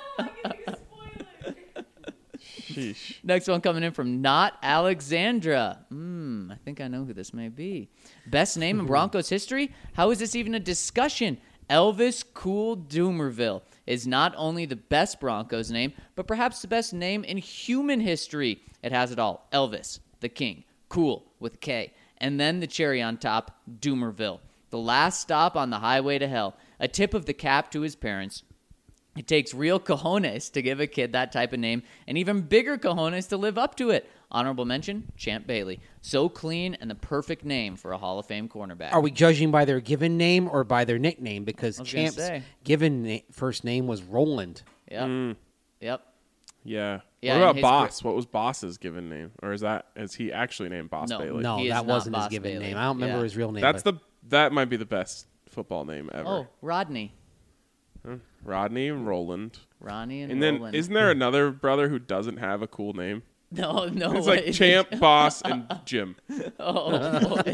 Sheesh. Next one coming in from Not Alexandra. I think I know who this may be. Best name in Broncos history? How is this even a discussion? Elvis Cool Doomerville is not only the best Broncos name, but perhaps the best name in human history. It has it all. Elvis, the king, cool with a K, and then the cherry on top, Doomerville. The last stop on the highway to hell. A tip of the cap to his parents. It takes real cojones to give a kid that type of name, and even bigger cojones to live up to it. Honorable mention, Champ Bailey. So clean and the perfect name for a Hall of Fame cornerback. Are we judging by their given name or by their nickname? Because was gonna Champ's say. given first name was Roland. Yep. Yep. Yeah. Yeah, What and about his Boss? What was Boss's given name? Or is he actually named Boss No. Bailey? No, He is that not wasn't his Boss given Bailey. name. I don't remember Yeah. his real name. That might be the best football name ever. Oh, Rodney. Rodney and Roland. Ronnie and And then Roland. isn't there another brother who doesn't have a cool name? No It's way. like Champ, Boss, and Jim. Oh, boy.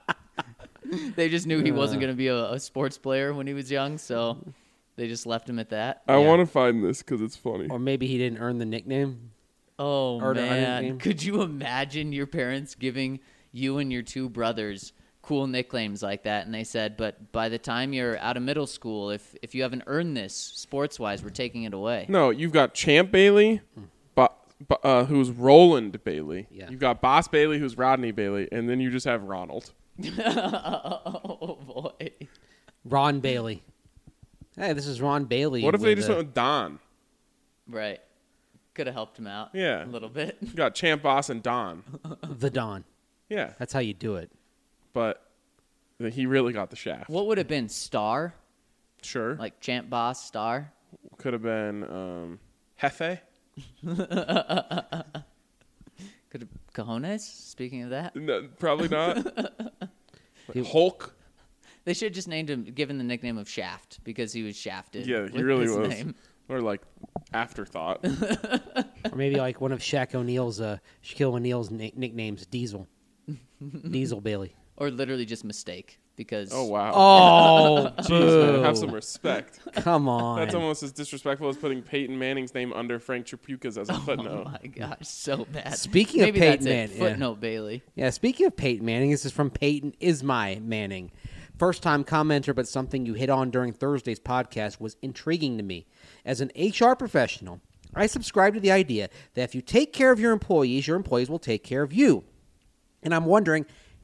They just knew he wasn't going to be a sports player when he was young, so they just left him at that. I want to find this because it's funny. Or maybe he didn't earn the nickname. Oh, Or the man. nickname. Could you imagine your parents giving you and your two brothers cool nicknames like that? And they said, but by the time you're out of middle school, if you haven't earned this sports-wise, we're taking it away. No, you've got Champ Bailey, who's Roland Bailey. Yeah. You've got Boss Bailey, who's Rodney Bailey, and then you just have Ronald. Oh, boy. Ron Bailey. Hey, this is Ron Bailey. What if they with, just went with Don? Right. Could have helped him out Yeah. a little bit. You got Champ, Boss, and Don. the Don? Yeah, That's how you do it. but he really got the shaft. What would have been Star? Sure. Like Champ Boss Star? Could have been Hefe. Could have Cojones, speaking of that. No, probably not. Dude. Hulk. They should have just named him, given the nickname of Shaft, because he was shafted. Yeah, he with really his was. name. Or like afterthought. Or maybe like one of Shaquille O'Neal's nicknames, Diesel. Diesel Bailey. Or literally just mistake, because... Oh wow. Oh, Jeez, man, have boo. some respect. Come on. That's almost as disrespectful as putting Peyton Manning's name under Frank Tripucka's as a Oh, footnote. my gosh, so bad. Speaking of Maybe Peyton that's it. Manning, yeah. Footnote Bailey. Yeah, speaking of Peyton Manning, this is from Peyton Is My Manning. First-time commenter, but something you hit on during Thursday's podcast was intriguing to me. As an HR professional, I subscribe to the idea that if you take care of your employees will take care of you. And I'm wondering,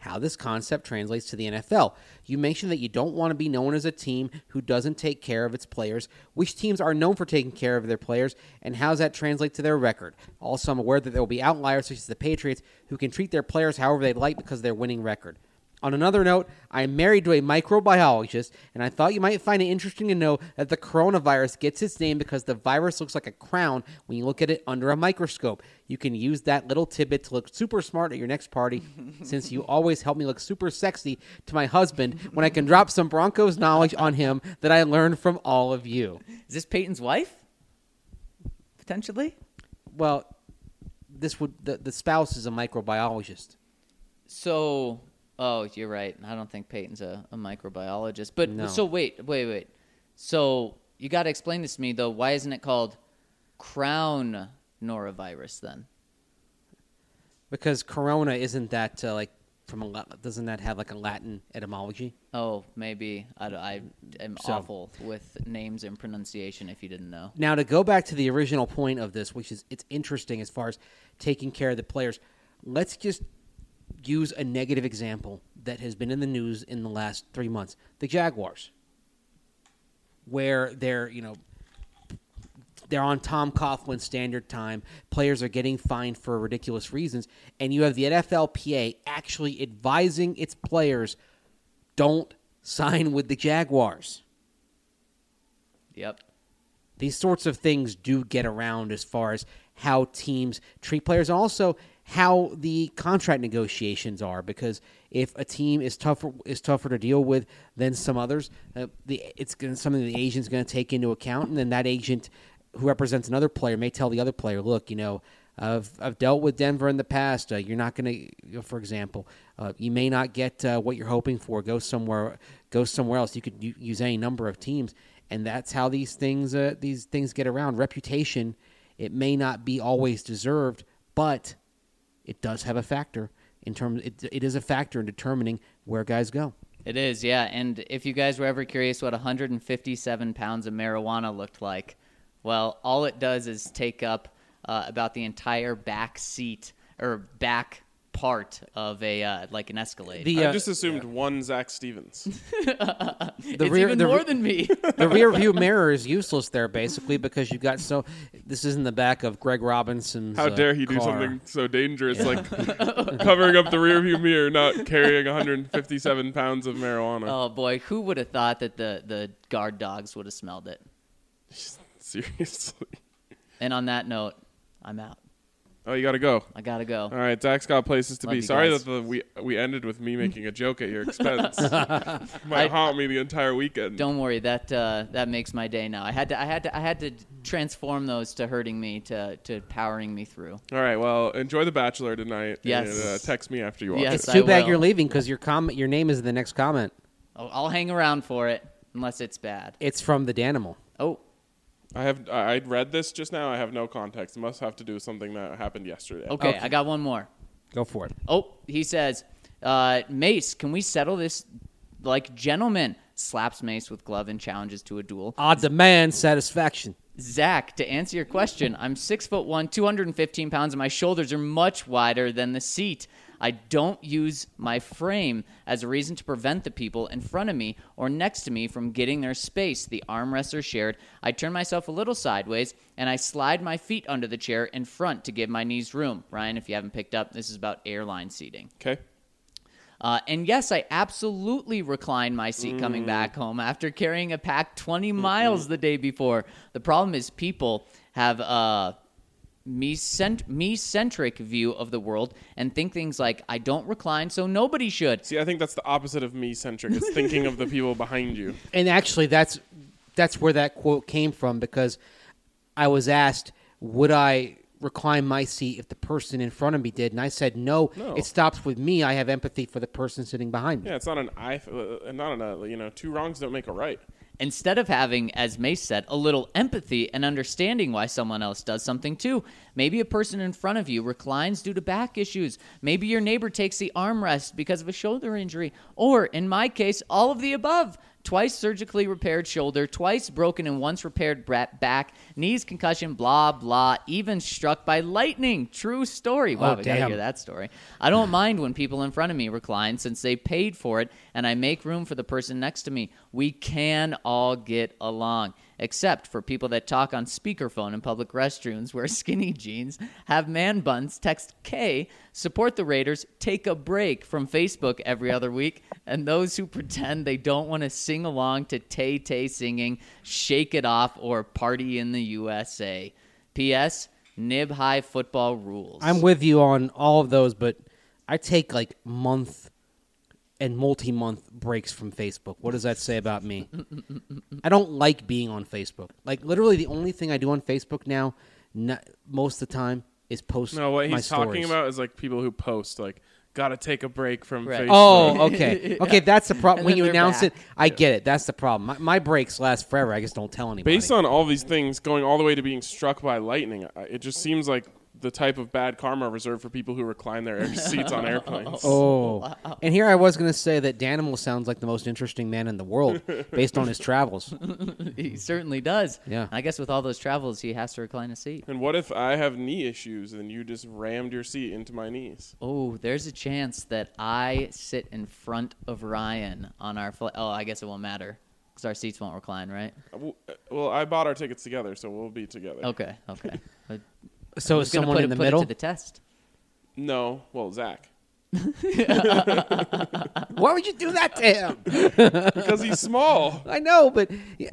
how this concept translates to the NFL. You mentioned that you don't want to be known as a team who doesn't take care of its players. Which teams are known for taking care of their players, and how does that translate to their record? Also, I'm aware that there will be outliers such as the Patriots who can treat their players however they like because of their winning record. On another note, I am married to a microbiologist, and I thought you might find it interesting to know that the coronavirus gets its name because the virus looks like a crown when you look at it under a microscope. You can use that little tidbit to look super smart at your next party, since you always help me look super sexy to my husband when I can drop some Broncos knowledge on him that I learned from all of you. Is this Peyton's wife? Potentially? Well, this would the spouse is a microbiologist. So... Oh, you're right. I don't think Peyton's a microbiologist. But No. So wait. So you got to explain this to me, though. Why isn't it called crown norovirus then? Because corona isn't that doesn't that have like a Latin etymology? Oh, maybe. I am So- awful with names and pronunciation, if you didn't know. Now, to go back to the original point of this, which is it's interesting as far as taking care of the players, let's just use a negative example that has been in the news in the last 3 months. The Jaguars, where they're on Tom Coughlin standard time. Players are getting fined for ridiculous reasons, and you have the NFLPA actually advising its players, don't sign with the Jaguars. Yep. These sorts of things do get around as far as how teams treat players, and also how the contract negotiations are. Because if a team is tougher to deal with than some others, it's something the agent's going to take into account, and then that agent who represents another player may tell the other player, "Look, I've dealt with Denver in the past. You're not going to, for example, you may not get what you're hoping for. Go somewhere else. You could use any number of teams." And that's how these things get around. Reputation, it may not be always deserved, but it does have a factor in terms. It is a factor in determining where guys go. It is, yeah. And if you guys were ever curious what 157 pounds of marijuana looked like, well, all it does is take up about the entire back seat or back part of an Escalade. I just assumed one Zach Stevens. It's more than me. The rear view mirror is useless there, basically, because you've got this is in the back of Greg Robinson's How dare he do car. something so dangerous like covering up the rearview mirror, not carrying 157 pounds of marijuana. Oh, boy. Who would have thought that the guard dogs would have smelled it? Seriously. And on that note, I'm out. Oh, you got to go. I got to go. All right, Zach's got places to Love be. you Sorry guys. that we ended with me making a joke at your expense. Might haunt me the entire weekend. Don't worry, that makes my day now. I had to transform those to hurting me to powering me through. All right, well, enjoy The Bachelor tonight. Yes. And, text me after you watch Yes. it. It's too I bad will. you're leaving because your name is in the next comment. I'll hang around for it unless it's bad. It's from the Danimal. Oh, I read this just now. I have no context. It must have to do with something that happened yesterday. okay. I got one more. Go for it. Oh, he says, Mace, can we settle this like gentlemen? Slaps Mace with glove and challenges to a duel. I demand satisfaction. Zach, to answer your question, I'm 6'1", 215 pounds, and my shoulders are much wider than the seat. I don't use my frame as a reason to prevent the people in front of me or next to me from getting their space the armrests are shared. I turn myself a little sideways, and I slide my feet under the chair in front to give my knees room. Ryan, if you haven't picked up, this is about airline seating. Okay. And yes, I absolutely recline my seat coming back home after carrying a pack 20 miles the day before. The problem is people have a me-centric view of the world and think things like, I don't recline, so nobody should. See, I think that's the opposite of me-centric. It's thinking of the people behind you. And actually, that's where that quote came from, because I was asked, would I recline my seat if the person in front of me did? And I said, no. It stops with me. I have empathy for the person sitting behind me. Yeah, it's not two wrongs don't make a right. Instead of having, as Mace said, a little empathy and understanding why someone else does something too. Maybe a person in front of you reclines due to back issues. Maybe your neighbor takes the armrest because of a shoulder injury. Or, in my case, all of the above. twice surgically repaired shoulder, twice broken and once repaired back, knees concussion, blah, blah, even struck by lightning. True story. Wow, we got to damn. hear that story. I don't mind when people in front of me recline since they paid for it and I make room for the person next to me. We can all get along. Except for people that talk on speakerphone in public restrooms, wear skinny jeans, have man buns, text K, support the Raiders, take a break from Facebook every other week, and those who pretend they don't want to sing along to Tay-Tay singing Shake It Off or Party in the USA. P.S. Nib High football rules. I'm with you on all of those, but I take like month and multi-month breaks from Facebook. What does that say about me? I don't like being on Facebook. Like, literally the only thing I do on Facebook now, most of the time, is post No, what my he's talking stories. about is like people who post like, gotta take a break from Right. Facebook. Oh, okay. Okay, that's the problem. And When then you they're announce back. it, I get it. That's the problem. My breaks last forever. I just don't tell anybody. Based on all these things, going all the way to being struck by lightning, it just seems like the type of bad karma reserved for people who recline their seats on airplanes. Oh, and here I was going to say that Danimal sounds like the most interesting man in the world based on his travels. He certainly does. Yeah. I guess with all those travels, he has to recline a seat. And what if I have knee issues and you just rammed your seat into my knees? Oh, there's a chance that I sit in front of Ryan on our flight. Oh, I guess it won't matter because our seats won't recline, right? Well, I bought our tickets together, so we'll be together. Okay. So I is was gonna someone in the put middle? it to the test. No, well, Zach. Why would you do that to him? Because he's small. I know, but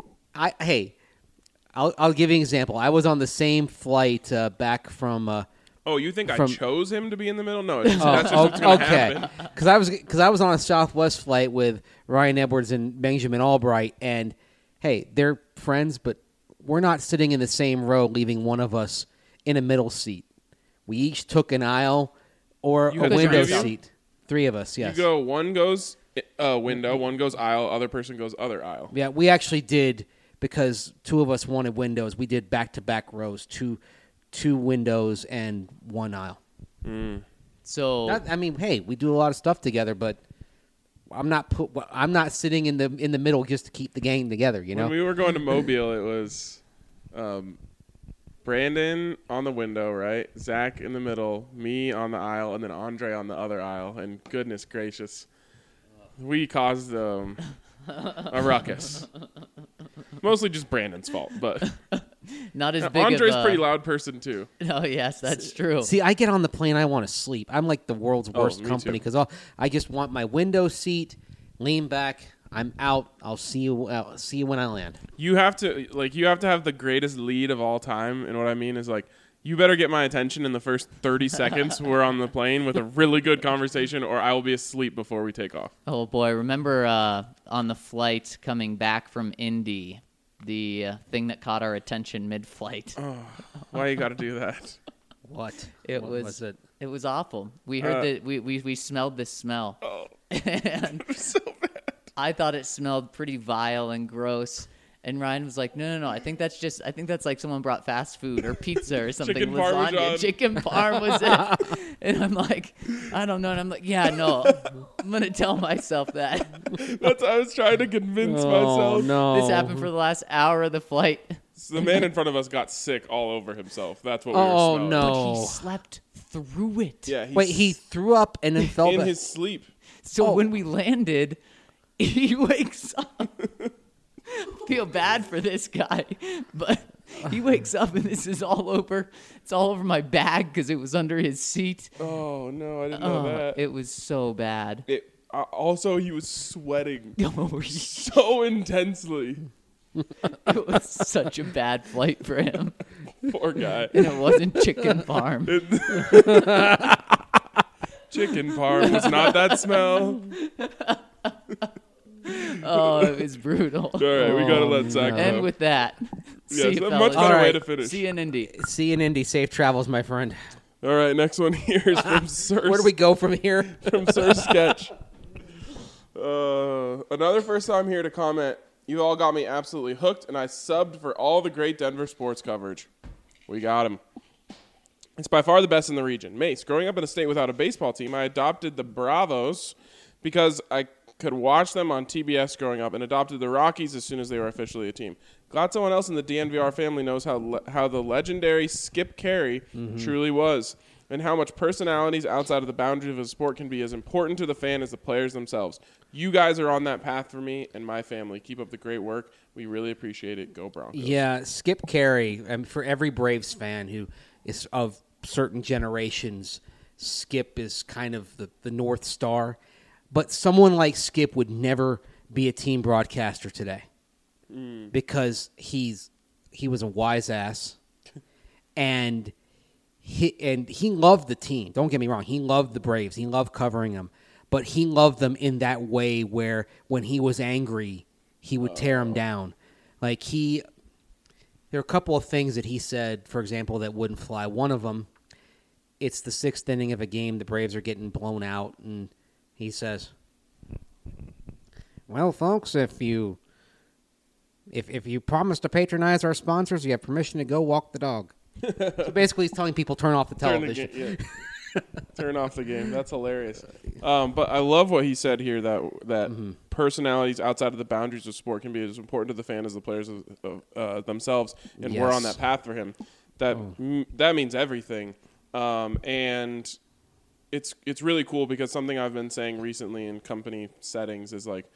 I'll give you an example. I was on the same flight back from. Oh, you think I From- chose him to be in the middle? No, that's just what's going to okay. happen. Because I was on a Southwest flight with Ryan Edwards and Benjamin Albright, and hey, they're friends, but we're not sitting in the same row, leaving one of us in a middle seat. We each took an aisle or You a had window three of you? seat. Three of us, yes. You go, one goes window, one goes aisle, other person goes other aisle. Yeah, we actually did, because two of us wanted windows. We did back-to-back rows, two windows and one aisle. So I mean, hey, we do a lot of stuff together, but I'm not sitting in the middle just to keep the gang together. You know. When we were going to Mobile, it was Brandon on the window, right? Zach in the middle, me on the aisle, and then Andre on the other aisle. And goodness gracious, we caused a ruckus. Mostly just Brandon's fault, but not as big Andre's of a... a pretty loud person too. Oh, yes, that's true. See, I get on the plane, I want to sleep. I'm like the world's worst me company too. because I just want my window seat, lean back. I'm out. I'll see you when I land. You have to have the greatest lead of all time, and what I mean is like you better get my attention in the first 30 seconds we're on the plane with a really good conversation, or I will be asleep before we take off. Oh, boy. Remember on the flight coming back from Indy, the thing that caught our attention mid-flight? Why you got to do that? What? It What was it? It was awful. We heard that we smelled this smell. Oh, And so bad. I thought it smelled pretty vile and gross. And Ryan was like, no. I think that's like someone brought fast food or pizza or something. Chicken Lasagna. Parmesan. Chicken parm was it. And I'm like, I don't know. And I'm like, yeah, no. I'm going to tell myself that. I was trying to convince Oh myself. no! This happened for the last hour of the flight. So the man in front of us got sick all over himself. That's what we Oh, were smelling. no. But Oh. he slept through it. Yeah. Wait, he threw up and then fell in back. his sleep. So when we landed, he wakes up. Feel bad for this guy, but he wakes up and this is all over. It's all over my bag because it was under his seat. Oh no, I didn't know that. It was so bad. Also, he was sweating Oh, so intensely. it was such a bad flight for him, Poor guy. and it wasn't chicken farm. Chicken parm was not that smell. Oh, it was brutal. All right, we gotta let Zach go. And with that, see Yes, you, a fellas. much better All way right. to finish. See you in Indy. See you in Indy. Safe travels, my friend. All right, next one here is from Sir. Where do we go from here? From Sir Sketch. Another first time here to comment. You all got me absolutely hooked, and I subbed for all the great Denver sports coverage. We got him. It's by far the best in the region. Mace, growing up in a state without a baseball team, I adopted the Bravos because I could watch them on TBS growing up and adopted the Rockies as soon as they were officially a team. Glad someone else in the DNVR family knows how the legendary Skip Carey truly was, and how much personalities outside of the boundaries of a sport can be as important to the fan as the players themselves. You guys are on that path for me and my family. Keep up the great work. We really appreciate it. Go Broncos. Yeah, Skip Carey, for every Braves fan who is of certain generations, Skip is kind of the North Star. But someone like Skip would never be a team broadcaster today because he was a wise ass, and he loved the team. Don't get me wrong. He loved the Braves. He loved covering them. But he loved them in that way where when he was angry, he would tear them down. Like there are a couple of things that he said, for example, that wouldn't fly. One of them, it's the 6th inning of a game. The Braves are getting blown out, and he says, "Well, folks, if you promise to patronize our sponsors, you have permission to go walk the dog." So basically, he's telling people turn off the television. Turn off the game. That's hilarious. But I love what he said here, that personalities outside of the boundaries of sport can be as important to the fan as the players themselves, and we're on that path for him. That means everything. And it's really cool because something I've been saying recently in company settings is like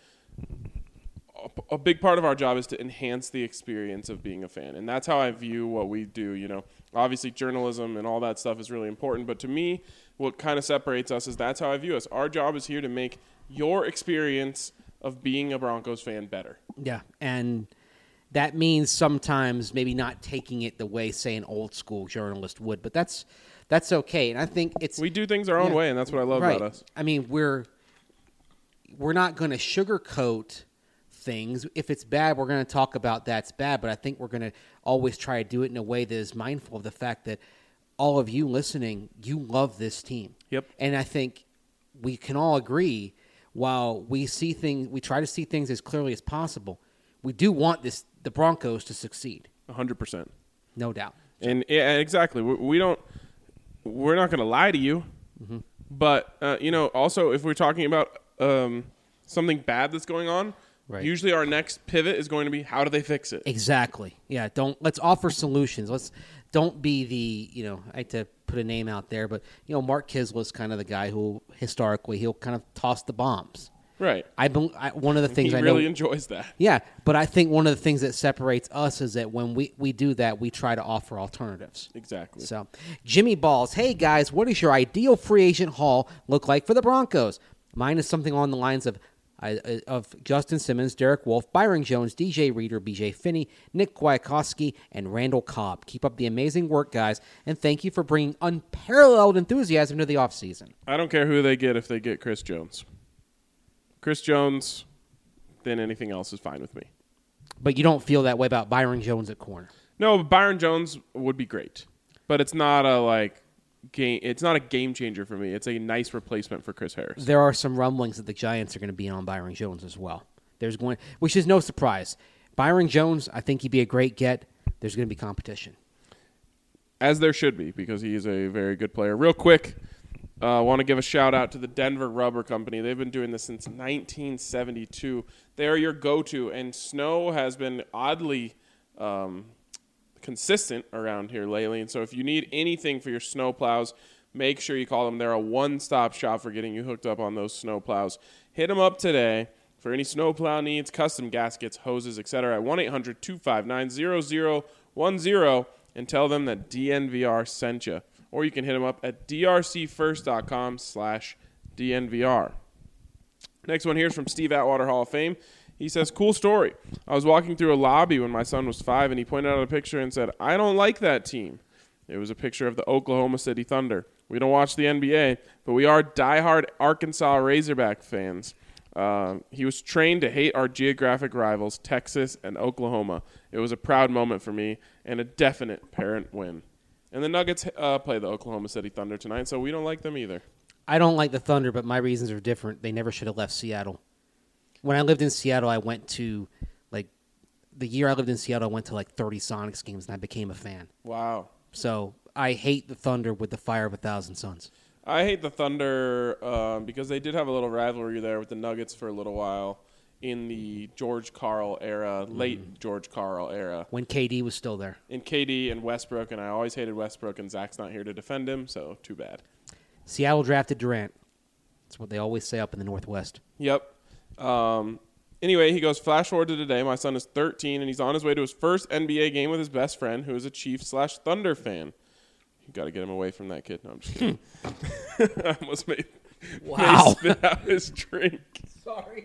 a big part of our job is to enhance the experience of being a fan. And that's how I view what we do. You know, obviously journalism and all that stuff is really important. But to me, what kind of separates us is that's how I view us. Our job is here to make your experience of being a Broncos fan better. Yeah. And that means sometimes maybe not taking it the way, say, an old school journalist would. But that's okay. And I think we do things our own way, and that's what I love about us. I mean, we're not going to sugarcoat things. If it's bad, we're going to talk about that's bad, but I think we're going to always try to do it in a way that is mindful of the fact that all of you listening, you love this team. Yep. And I think we can all agree, while we try to see things as clearly as possible, we do want the Broncos to succeed. 100%. No doubt. And exactly. We're not going to lie to you, but also if we're talking about something bad that's going on, usually our next pivot is going to be how do they fix it? Exactly. Yeah. Let's offer solutions. Don't be I hate to put a name out there, but Mark Kisle's kind of the guy who historically he'll kind of toss the bombs. Right. One of the things he really enjoys that. Yeah, but I think one of the things that separates us is that when we do that, we try to offer alternatives. Exactly. So, Jimmy Balls, hey guys, what does your ideal free agent haul look like for the Broncos? Mine is something along the lines of Justin Simmons, Derek Wolfe, Byron Jones, DJ Reader, BJ Finney, Nick Kwiatkowski, and Randall Cobb. Keep up the amazing work, guys, and thank you for bringing unparalleled enthusiasm to the offseason. I don't care who they get if they get Chris Jones. Chris Jones, then anything else is fine with me. But you don't feel that way about Byron Jones at corner? No, Byron Jones would be great, but it's not it's not a game changer for me. It's a nice replacement for Chris Harris. There are some rumblings that the Giants are going to be on Byron Jones as well. Which is no surprise. Byron Jones, I think he'd be a great get. There's going to be competition. As there should be, because he is a very good player. Real quick, I want to give a shout-out to the Denver Rubber Company. They've been doing this since 1972. They are your go-to, and snow has been oddly consistent around here lately. And so if you need anything for your snow plows, make sure you call them. They're a one-stop shop for getting you hooked up on those snow plows. Hit them up today for any snow plow needs, custom gaskets, hoses, etc. at 1-800-259-0010 and tell them that DNVR sent you. Or you can hit them up at drcfirst.com/DNVR. Next one here is from Steve Atwater, Hall of Fame. He says, cool story. I was walking through a lobby when my son was 5, and he pointed out a picture and said, I don't like that team. It was a picture of the Oklahoma City Thunder. We don't watch the NBA, but we are diehard Arkansas Razorback fans. He was trained to hate our geographic rivals, Texas and Oklahoma. It was a proud moment for me and a definite parent win. And the Nuggets play the Oklahoma City Thunder tonight, so we don't like them either. I don't like the Thunder, but my reasons are different. They never should have left Seattle. When I lived in Seattle, I went to, the year I lived in Seattle, I went to 30 Sonics games, and I became a fan. Wow. So I hate the Thunder with the fire of 1,000 suns. I hate the Thunder because they did have a little rivalry there with the Nuggets for a little while in the George Karl era, late George Karl era. When KD was still there. In KD and Westbrook, and I always hated Westbrook, and Zach's not here to defend him, so too bad. Seattle drafted Durant. That's what they always say up in the Northwest. Yep. Anyway, he goes, flash forward to today. My son is 13, and he's on his way to his first NBA game with his best friend, who is a Chiefs/Thunder fan. You got to get him away from that kid. No, I'm just kidding. I almost made spit out his drink. Sorry.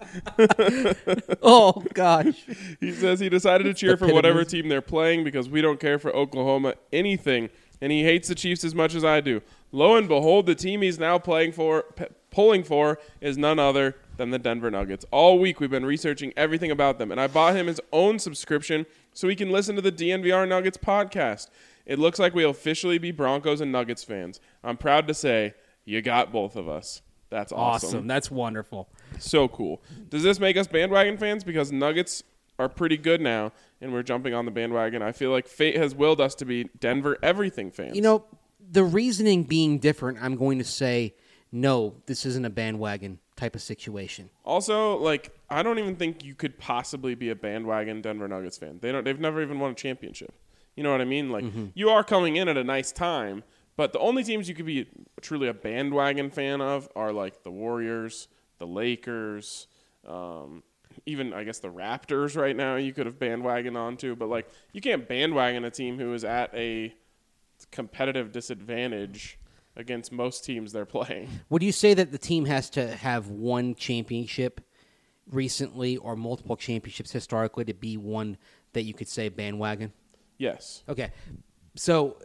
Oh, gosh. He says he decided to cheer for whatever team they're playing because we don't care for Oklahoma anything, and he hates the Chiefs as much as I do. Lo and behold, the team he's now pulling for is none other than the Denver Nuggets. All week we've been researching everything about them, and I bought him his own subscription so he can listen to the DNVR Nuggets podcast. It looks like we'll officially be Broncos and Nuggets fans. I'm proud to say you got both of us. That's awesome. That's wonderful. So cool. Does this make us bandwagon fans? Because Nuggets are pretty good now, and we're jumping on the bandwagon. I feel like fate has willed us to be Denver everything fans. You know, the reasoning being different, I'm going to say, no, this isn't a bandwagon type of situation. Also, like, I don't even think you could possibly be a bandwagon Denver Nuggets fan. They've never even won a championship. You know what I mean? Like, you are coming in at a nice time, but the only teams you could be truly a bandwagon fan of are, like, the Warriors, the Lakers, even, I guess, the Raptors right now you could have bandwagon onto. But, like, you can't bandwagon a team who is at a competitive disadvantage against most teams they're playing. Would you say that the team has to have one championship recently or multiple championships historically to be one that you could say bandwagon? Yes. Okay. So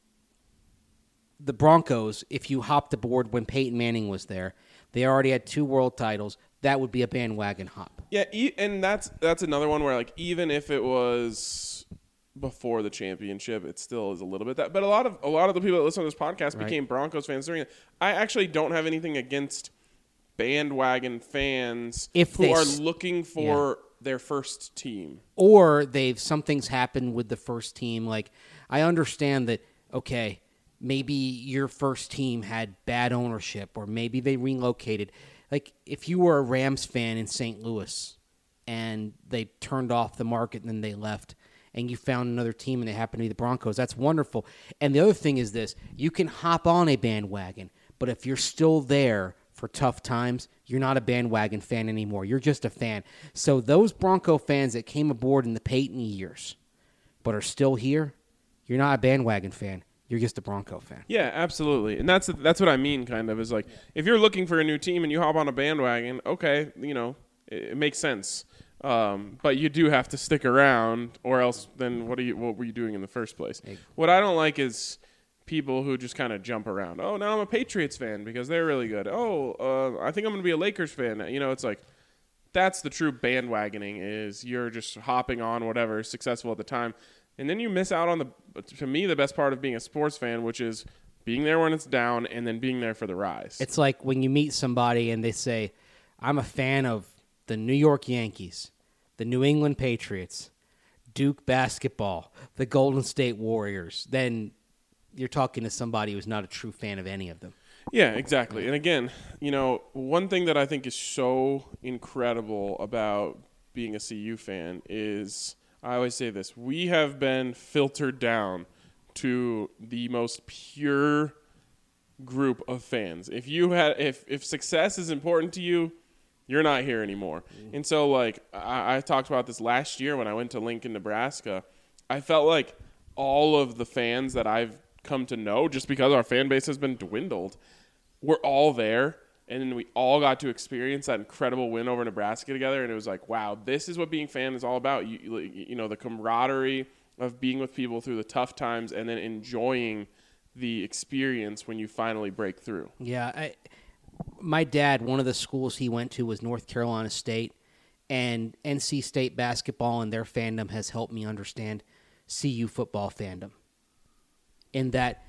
the Broncos, if you hopped aboard when Peyton Manning was there, they already had 2 world titles. That would be a bandwagon hop. Yeah, and that's another one where, like, even if it was before the championship, it still is a little bit that. But a lot of the people that listen to this podcast became Broncos fans during it. I actually don't have anything against bandwagon fans who are looking for their first team, or something's happened with the first team. Like, I understand that. Okay, maybe your first team had bad ownership, or maybe they relocated. Like, if you were a Rams fan in St. Louis and they turned off the market and then they left, and you found another team and they happen to be the Broncos, that's wonderful. And the other thing is this: you can hop on a bandwagon, but if you're still there for tough times, you're not a bandwagon fan anymore. You're just a fan. So those Bronco fans that came aboard in the Peyton years but are still here, you're not a bandwagon fan. You're just a Bronco fan. Yeah, absolutely. And that's what I mean, kind of, is like, if you're looking for a new team and you hop on a bandwagon, okay, you know, it makes sense. But you do have to stick around, or else then what were you doing in the first place? What I don't like is people who just kind of jump around. Oh, now I'm a Patriots fan because they're really good. Oh, I think I'm going to be a Lakers fan. You know, it's like, that's the true bandwagoning, is you're just hopping on whatever is successful at the time. And then you miss out on to me, the best part of being a sports fan, which is being there when it's down and then being there for the rise. It's like when you meet somebody and they say, I'm a fan of the New York Yankees, the New England Patriots, Duke basketball, the Golden State Warriors. Then you're talking to somebody who's not a true fan of any of them. Yeah, exactly. And again, you know, one thing that I think is so incredible about being a CU fan is, I always say this, we have been filtered down to the most pure group of fans. If success is important to you, you're not here anymore. And so, like, I talked about this last year when I went to Lincoln, Nebraska. I felt like all of the fans that I've come to know, just because our fan base has been dwindled, we're all there, and then we all got to experience that incredible win over Nebraska together, and it was like, wow, this is what being a fan is all about. You know, the camaraderie of being with people through the tough times and then enjoying the experience when you finally break through. Yeah, my dad, one of the schools he went to was North Carolina State, and NC State basketball and their fandom has helped me understand CU football fandom. In that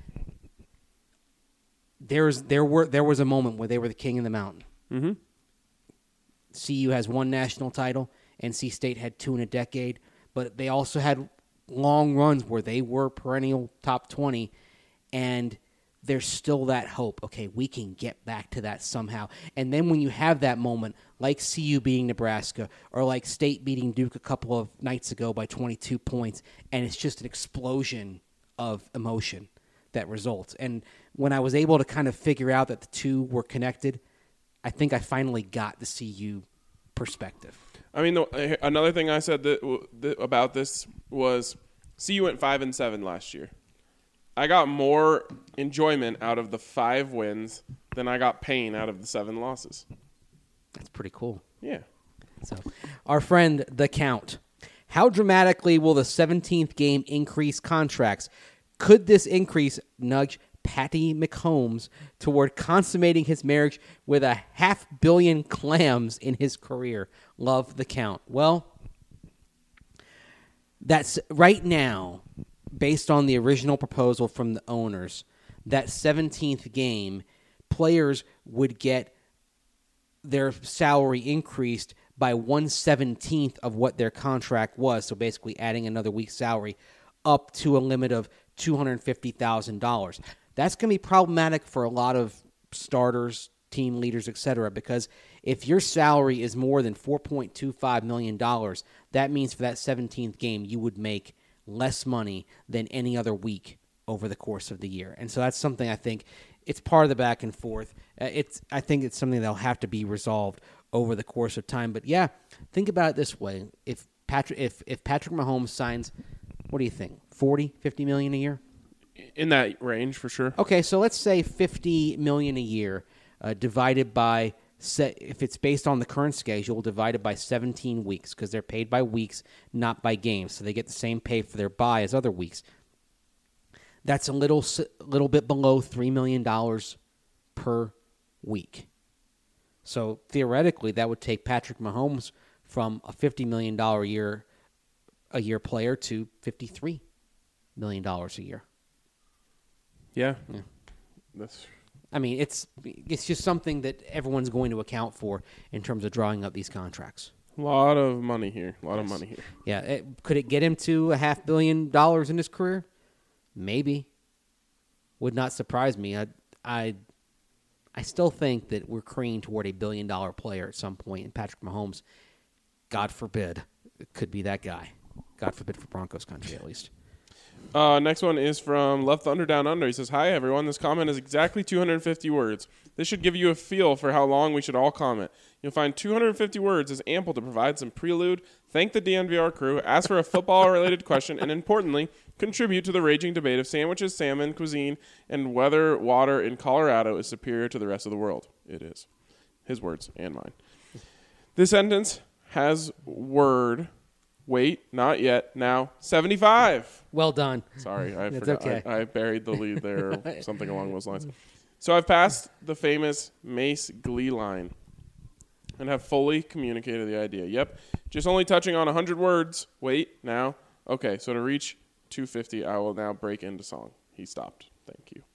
there was a moment where they were the king of the mountain. Mm-hmm. CU has 1 national title. NC State had 2 in a decade, but they also had long runs where they were perennial top 20, and there's still that hope. Okay, we can get back to that somehow. And then when you have that moment, like CU beating Nebraska or like State beating Duke a couple of nights ago by 22 points, and it's just an explosion of emotion that results. And when I was able to kind of figure out that the two were connected, I think I finally got the CU perspective. I mean, another thing I said about this was CU went 5-7 last year. I got more enjoyment out of the 5 wins than I got pain out of the 7 losses. That's pretty cool. Yeah. So, our friend, The Count. How dramatically will the 17th game increase contracts? Could this increase nudge Patty McHolmes toward consummating his marriage with a 500 million clams in his career? Love, The Count. Well, that's right now, based on the original proposal from the owners, that 17th game, players would get their salary increased by 1/17 of what their contract was, so basically adding another week's salary up to a limit of $250,000. That's going to be problematic for a lot of starters, team leaders, etc., because if your salary is more than $4.25 million, that means for that 17th game you would make less money than any other week over the course of the year. And so that's something I think it's part of the back and forth. I think it's something that'll have to be resolved over the course of time. But yeah, think about it this way. If Patrick Mahomes signs, what do you think, 40, 50 million a year? In that range, for sure. Okay, so let's say 50 million a year divided by, if it's based on the current schedule, divided by 17 weeks, because they're paid by weeks, not by games. So they get the same pay for their bye as other weeks. That's a little bit below $3 million per week. So theoretically, that would take Patrick Mahomes from a $50 million a year player to $53 million a year. Yeah. I mean, it's just something that everyone's going to account for in terms of drawing up these contracts. A lot of money here. A lot of money here. Yeah. Could it get him to $500 million in his career? Maybe. Would not surprise me. I still think that we're careening toward a $1 billion player at some point, and Patrick Mahomes, God forbid, could be that guy. God forbid for Broncos country, at least. Next one is from Left Thunder Down Under. He says, "Hi, everyone. This comment is exactly 250 words. This should give you a feel for how long we should all comment. You'll find 250 words is ample to provide some prelude, thank the DNVR crew, ask for a football-related question, and importantly, contribute to the raging debate of sandwiches, salmon, cuisine, and whether water in Colorado is superior to the rest of the world. It is." His words and mine. This sentence has word... Wait, not yet. Now, 75. Well done. Sorry, I That's forgot. okay. I buried the lead there, or something along those lines. So I've passed the famous Mace Glee line and have fully communicated the idea. Yep, just only touching on 100 words. Wait, now. Okay, so to reach 250, I will now break into song. He stopped. Thank you.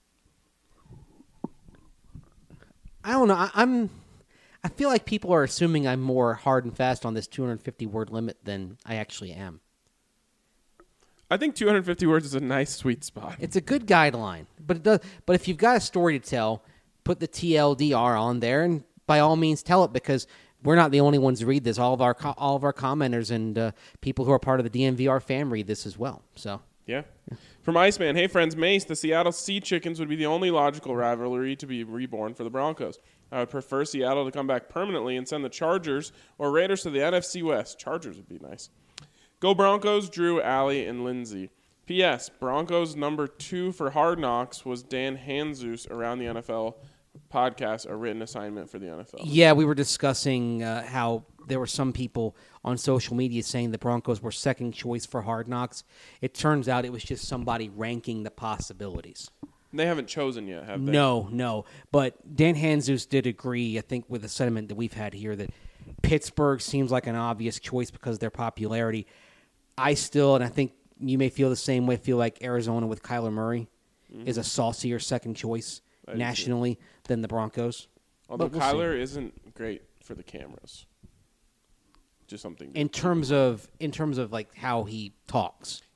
I don't know. I feel like people are assuming I'm more hard and fast on this 250-word limit than I actually am. I think 250 words is a nice sweet spot. It's a good guideline, but it does. But if you've got a story to tell, put the TLDR on there, and by all means tell it, because we're not the only ones to read this. All of our commenters and people who are part of the DNVR fam read this as well. So yeah. From Iceman, hey friends, Mace, the Seattle Sea Chickens would be the only logical rivalry to be reborn for the Broncos. I would prefer Seattle to come back permanently and send the Chargers or Raiders to the NFC West. Chargers would be nice. Go Broncos, Drew, Allie, and Lindsay. P.S. Broncos number 2 for Hard Knocks was Dan Hanzus around the NFL podcast, a written assignment for the NFL. Yeah, we were discussing how there were some people on social media saying the Broncos were second choice for Hard Knocks. It turns out it was just somebody ranking the possibilities. They haven't chosen yet, have they? No. But Dan Hanzus did agree, I think, with the sentiment that we've had here, that Pittsburgh seems like an obvious choice because of their popularity. I still, and I think you may feel the same way, feel like Arizona with Kyler Murray is a saucier second choice nationally than the Broncos. Although Kyler isn't great for the cameras. Just something in terms of like how he talks.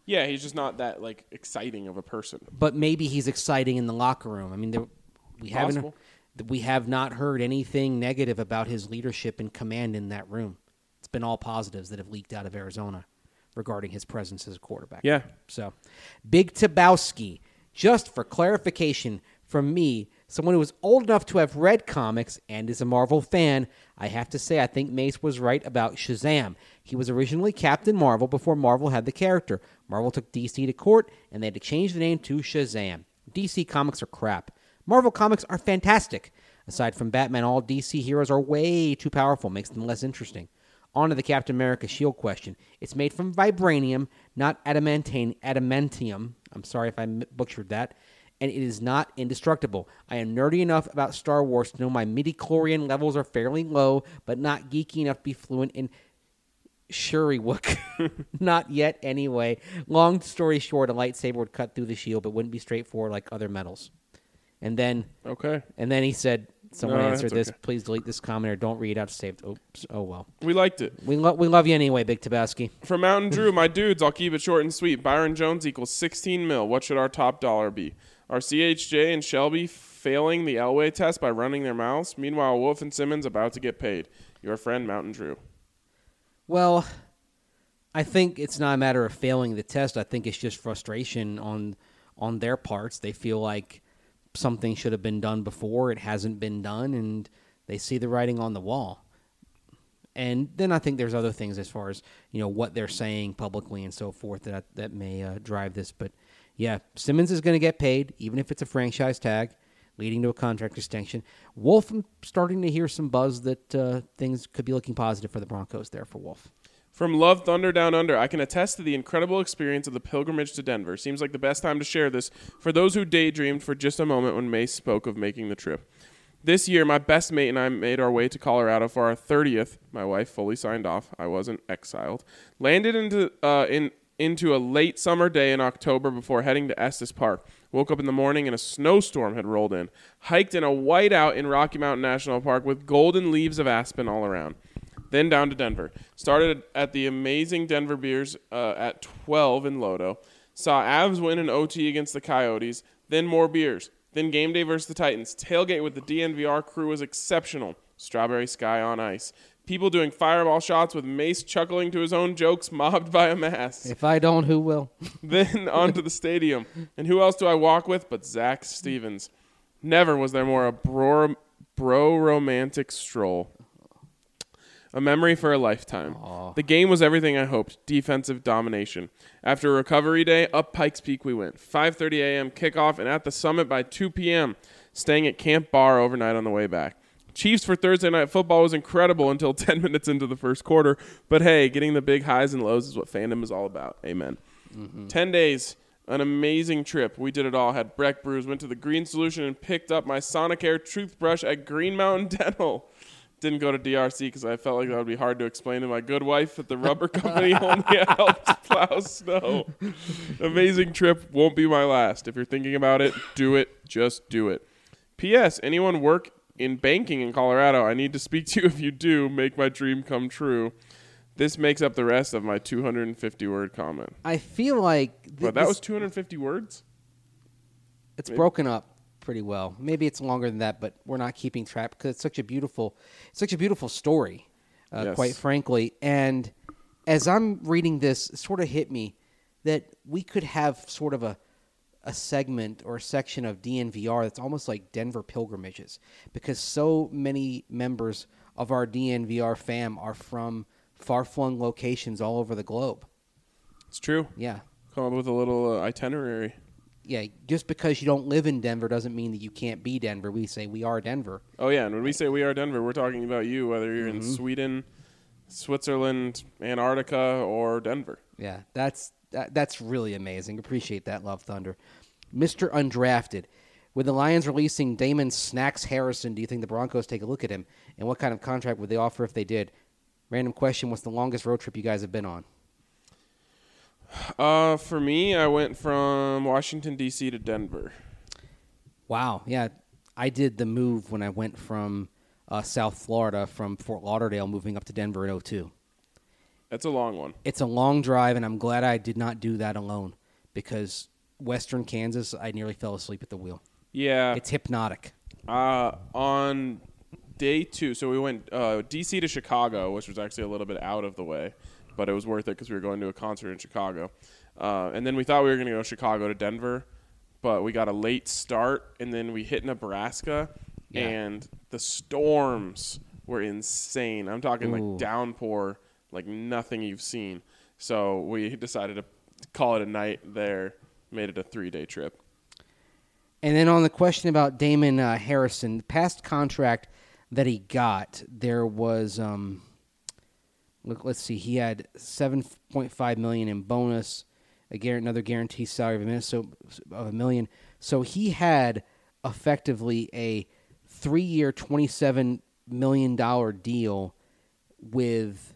Yeah, he's just not that like exciting of a person. But maybe he's exciting in the locker room. I mean, Possible. we have not heard anything negative about his leadership and command in that room. It's been all positives that have leaked out of Arizona regarding his presence as a quarterback. Yeah. So, Big Tabowski, just for clarification from me, someone who is old enough to have read comics and is a Marvel fan, I have to say I think Mace was right about Shazam. He was originally Captain Marvel before Marvel had the character. Marvel took DC to court, and they had to change the name to Shazam. DC comics are crap. Marvel comics are fantastic. Aside from Batman, all DC heroes are way too powerful, makes them less interesting. On to the Captain America shield question. It's made from vibranium, not adamantium. I'm sorry if I butchered that. And it is not indestructible. I am nerdy enough about Star Wars to know my midichlorian levels are fairly low, but not geeky enough to be fluent in Shuriwook. Not yet, anyway. Long story short, a lightsaber would cut through the shield, but wouldn't be straightforward like other metals. And then he said, someone answered this. Okay. Please delete this comment or don't read out saved. Oops. Oh, well. We liked it. We love you anyway, Big Tabasky. From Mountain Drew, my dudes, I'll keep it short and sweet. Byron Jones equals 16 mil. What should our top dollar be? Are CHJ and Shelby failing the Elway test by running their mouths? Meanwhile, Wolf and Simmons about to get paid. Your friend, Mountain Drew. Well, I think it's not a matter of failing the test. I think it's just frustration on their parts. They feel like something should have been done before. It hasn't been done, and they see the writing on the wall. And then I think there's other things as far as, what they're saying publicly and so forth that may drive this. But, yeah, Simmons is going to get paid, even if it's a franchise tag, leading to a contract extension. Wolf, I'm starting to hear some buzz that things could be looking positive for the Broncos there for Wolf. From Love Thunder Down Under, I can attest to the incredible experience of the pilgrimage to Denver. Seems like the best time to share this for those who daydreamed for just a moment when Mace spoke of making the trip. This year, my best mate and I made our way to Colorado for our 30th. My wife fully signed off. I wasn't exiled. Landed into a late summer day in October before heading to Estes Park. Woke up in the morning and a snowstorm had rolled in. Hiked in a whiteout in Rocky Mountain National Park with golden leaves of aspen all around. Then down to Denver. Started at the amazing Denver Beers at 12 in Lodo. Saw Avs win an OT against the Coyotes. Then more beers. Then game day versus the Titans. Tailgate with the DNVR crew was exceptional. Strawberry sky on ice. People doing fireball shots with Mace chuckling to his own jokes, mobbed by a mass. If I don't, who will? Then on to the stadium. And who else do I walk with but Zach Stevens? Never was there more a bro romantic stroll. A memory for a lifetime. Aww. The game was everything I hoped. Defensive domination. After recovery day, up Pikes Peak we went. 5:30 a.m. kickoff and at the summit by 2 p.m. Staying at Camp Bar overnight on the way back. Chiefs for Thursday Night Football was incredible until 10 minutes into the first quarter. But hey, getting the big highs and lows is what fandom is all about. Amen. 10 days. An amazing trip. We did it all. Had Breck Brews, went to the Green Solution, and picked up my Sonicare toothbrush at Green Mountain Dental. Didn't go to DRC because I felt like that would be hard to explain to my good wife that the rubber company only helped plow snow. Amazing trip. Won't be my last. If you're thinking about it, do it. Just do it. P.S. Anyone work in banking in Colorado? I need to speak to you. If you do, make my dream come true. This makes up the rest of my 250-word comment. I feel like... But that was 250 words? It's broken up pretty well. Maybe it's longer than that, but we're not keeping track because it's such a beautiful story, yes. Quite frankly. And as I'm reading this, it sort of hit me that we could have sort of a segment or a section of DNVR that's almost like Denver pilgrimages, because so many members of our DNVR fam are from far-flung locations all over the globe. It's true. Yeah. Come up with a little itinerary. Yeah, just because you don't live in Denver doesn't mean that you can't be Denver. We say we are Denver. Oh, yeah, and when we say we are Denver, we're talking about you, whether you're in Sweden, Switzerland, Antarctica, or Denver. Yeah, that's really amazing. Appreciate that, Love Thunder. Mr. Undrafted. With the Lions releasing Damon Snacks Harrison, do you think the Broncos take a look at him? And what kind of contract would they offer if they did? Random question, what's the longest road trip you guys have been on? For me, I went from Washington, D.C. to Denver. Wow. Yeah, I did the move when I went from South Florida, from Fort Lauderdale, moving up to Denver in 2002. It's a long one. It's a long drive, and I'm glad I did not do that alone because Western Kansas, I nearly fell asleep at the wheel. Yeah. It's hypnotic. On day 2, so we went D.C. to Chicago, which was actually a little bit out of the way, but it was worth it because we were going to a concert in Chicago. And then we thought we were going to go Chicago to Denver, but we got a late start, and then we hit Nebraska, and the storms were insane. I'm talking like downpour, like nothing you've seen. So we decided to call it a night there, made it a 3-day trip. And then on the question about Damon Harrison, the past contract that he got, there was let's see, he had $7.5 million in bonus, another guaranteed salary of $1 million. So he had effectively a 3-year, $27 million deal with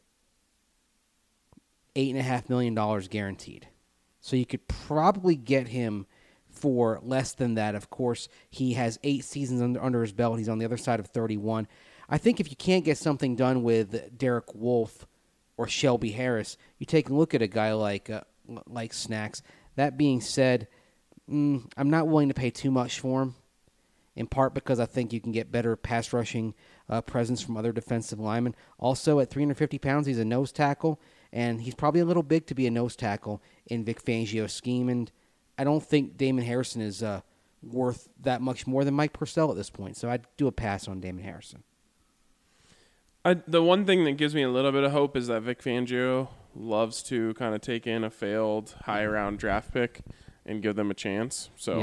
$8.5 million guaranteed. So you could probably get him for less than that. Of course, he has 8 seasons under his belt. He's on the other side of 31. I think if you can't get something done with Derek Wolfe or Shelby Harris, you take a look at a guy like Snacks. That being said, I'm not willing to pay too much for him, in part because I think you can get better pass rushing presence from other defensive linemen. Also, at 350 pounds, he's a nose tackle, and he's probably a little big to be a nose tackle in Vic Fangio's scheme, and I don't think Damon Harrison is worth that much more than Mike Purcell at this point, so I'd do a pass on Damon Harrison. The one thing that gives me a little bit of hope is that Vic Fangio loves to kind of take in a failed high-round draft pick and give them a chance. So,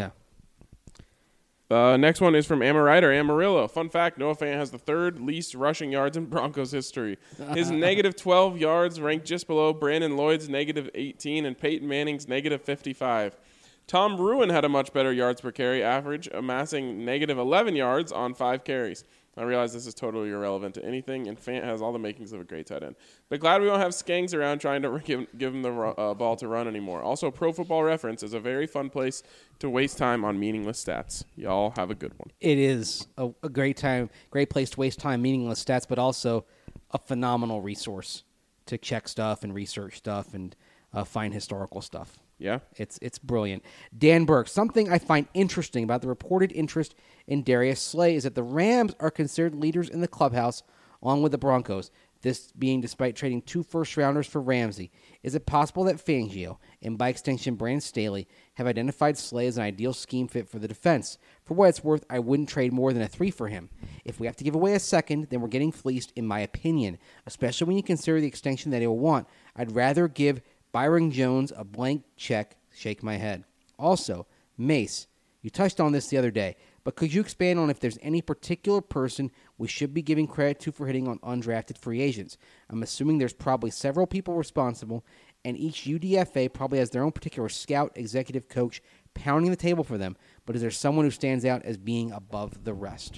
next one is from Amarider Amarillo. Fun fact, Noah Fant has the 3rd least rushing yards in Broncos history. His negative 12 yards ranked just below Brandon Lloyd's negative 18 and Peyton Manning's negative 55. Tom Bruin had a much better yards per carry average, amassing negative 11 yards on 5 carries. I realize this is totally irrelevant to anything, and Fant has all the makings of a great tight end. But glad we don't have Skangs around trying to give him the ball to run anymore. Also, Pro Football Reference is a very fun place to waste time on meaningless stats. Y'all have a good one. It is a great place to waste time, meaningless stats, but also a phenomenal resource to check stuff and research stuff and find historical stuff. Yeah. It's brilliant. Dan Burke, something I find interesting about the reported interest in Darius Slay is that the Rams are considered leaders in the clubhouse along with the Broncos, this being despite trading 2 first-rounders for Ramsey. Is it possible that Fangio, and by extension Brandon Staley, have identified Slay as an ideal scheme fit for the defense? For what it's worth, I wouldn't trade more than a 3 for him. If we have to give away a second, then we're getting fleeced, in my opinion, especially when you consider the extension that he will want. I'd rather give Byron Jones a blank check. Shake my head. Also, Mace, you touched on this the other day, but could you expand on if there's any particular person we should be giving credit to for hitting on undrafted free agents? I'm assuming there's probably several people responsible, and each UDFA probably has their own particular scout, executive coach pounding the table for them, but is there someone who stands out as being above the rest?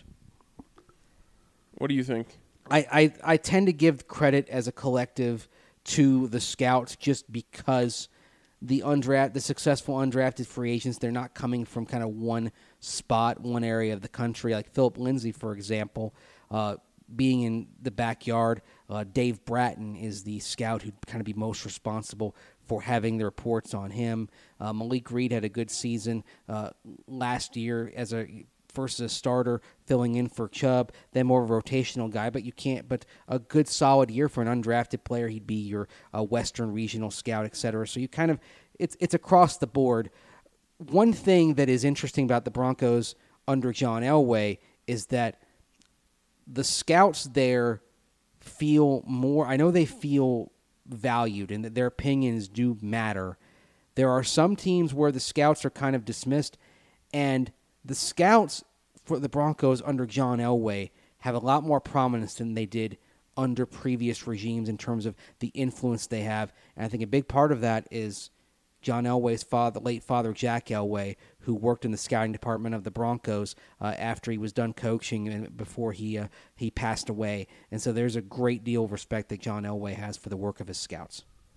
What do you think? I tend to give credit as a collective to the scouts just because the successful undrafted free agents, they're not coming from kind of one spot, one area of the country. Like Philip Lindsay, for example, being in the backyard, Dave Bratton is the scout who'd kind of be most responsible for having the reports on him. Malik Reed had a good season last year first as a starter, filling in for Chubb, then more of a rotational guy, but a good solid year for an undrafted player. He'd be your Western regional scout, etc. So you kind of, it's across the board. One thing that is interesting about the Broncos under John Elway is that the scouts there feel more, I know they feel valued and that their opinions do matter. There are some teams where the scouts are kind of dismissed, and the scouts for the Broncos under John Elway have a lot more prominence than they did under previous regimes in terms of the influence they have. And I think a big part of that is John Elway's late father, Jack Elway, who worked in the scouting department of the Broncos after he was done coaching and before he passed away. And so there's a great deal of respect that John Elway has for the work of his scouts.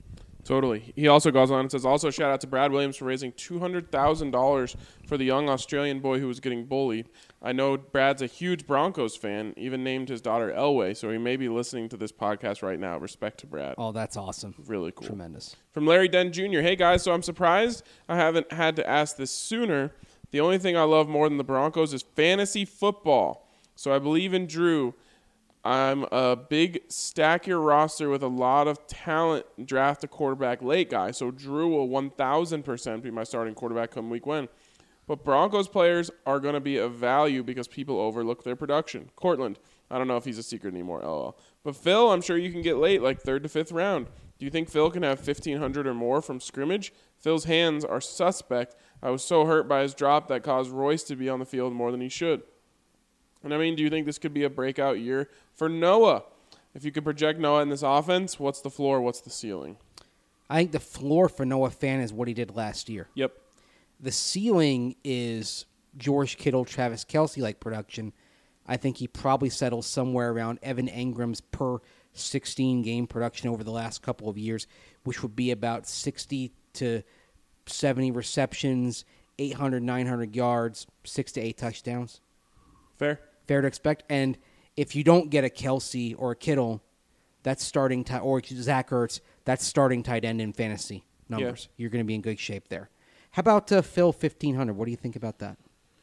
Totally. He also goes on and says, also shout out to Brad Williams for raising $200,000 for the young Australian boy who was getting bullied. I know Brad's a huge Broncos fan, even named his daughter Elway, so he may be listening to this podcast right now. Respect to Brad. Oh, that's awesome. Really cool. Tremendous. From Larry Dent Jr. Hey, guys, so I'm surprised I haven't had to ask this sooner. The only thing I love more than the Broncos is fantasy football. So I believe in Drew. I'm a big stack your roster with a lot of talent, draft a quarterback late guy. So Drew will 1,000% be my starting quarterback come week one. But Broncos players are going to be of value because people overlook their production. Cortland, I don't know if he's a secret anymore, LOL. But Phil, I'm sure you can get late, like 3rd to 5th round. Do you think Phil can have 1,500 or more from scrimmage? Phil's hands are suspect. I was so hurt by his drop that caused Royce to be on the field more than he should. And I mean, do you think this could be a breakout year for Noah? If you could project Noah in this offense, what's the floor, what's the ceiling? I think the floor for Noah Fant is what he did last year. Yep. The ceiling is George Kittle, Travis Kelce-like production. I think he probably settles somewhere around Evan Engram's per 16 game production over the last couple of years, which would be about 60 to 70 receptions, 800, 900 yards, 6 to 8 touchdowns. Fair to expect. And if you don't get a Kelce or a Kittle, that's starting or Zach Ertz, that's starting tight end in fantasy numbers. Yeah. You're going to be in good shape there. How about Phil 1,500? What do you think about that?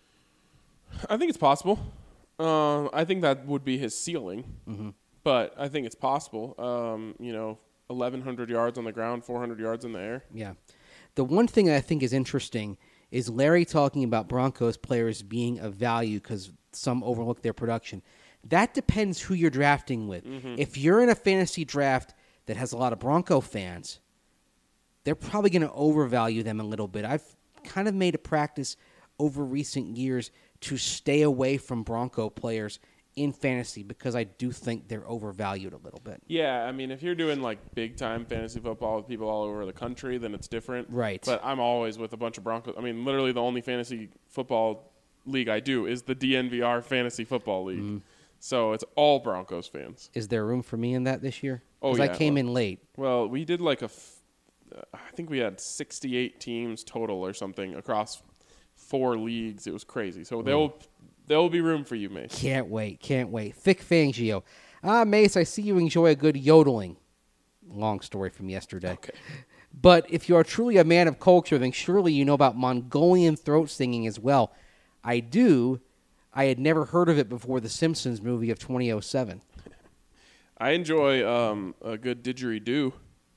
I think it's possible. I think that would be his ceiling, but I think it's possible. 1,100 yards on the ground, 400 yards in the air. Yeah. The one thing I think is interesting is Larry talking about Broncos players being of value because some overlook their production. That depends who you're drafting with. If you're in a fantasy draft that has a lot of Bronco fans, they're probably going to overvalue them a little bit. I've kind of made a practice over recent years to stay away from Bronco players in fantasy because I do think they're overvalued a little bit. Yeah, I mean, if you're doing like big-time fantasy football with people all over the country, then it's different. Right. But I'm always with a bunch of Broncos. I mean, literally the only fantasy football league I do is the DNVR Fantasy Football League. So it's all Broncos fans. Is there room for me in that this year? Oh, yeah. Because I came in late. Well, we did like I think we had 68 teams total or something across 4 leagues. It was crazy. So there will be room for you, Mace. Can't wait. Thick Fangio. Mace, I see you enjoy a good yodeling. Long story from yesterday. Okay. But if you are truly a man of culture, then surely you know about Mongolian throat singing as well. I do. I had never heard of it before the Simpsons movie of 2007. I enjoy a good didgeridoo.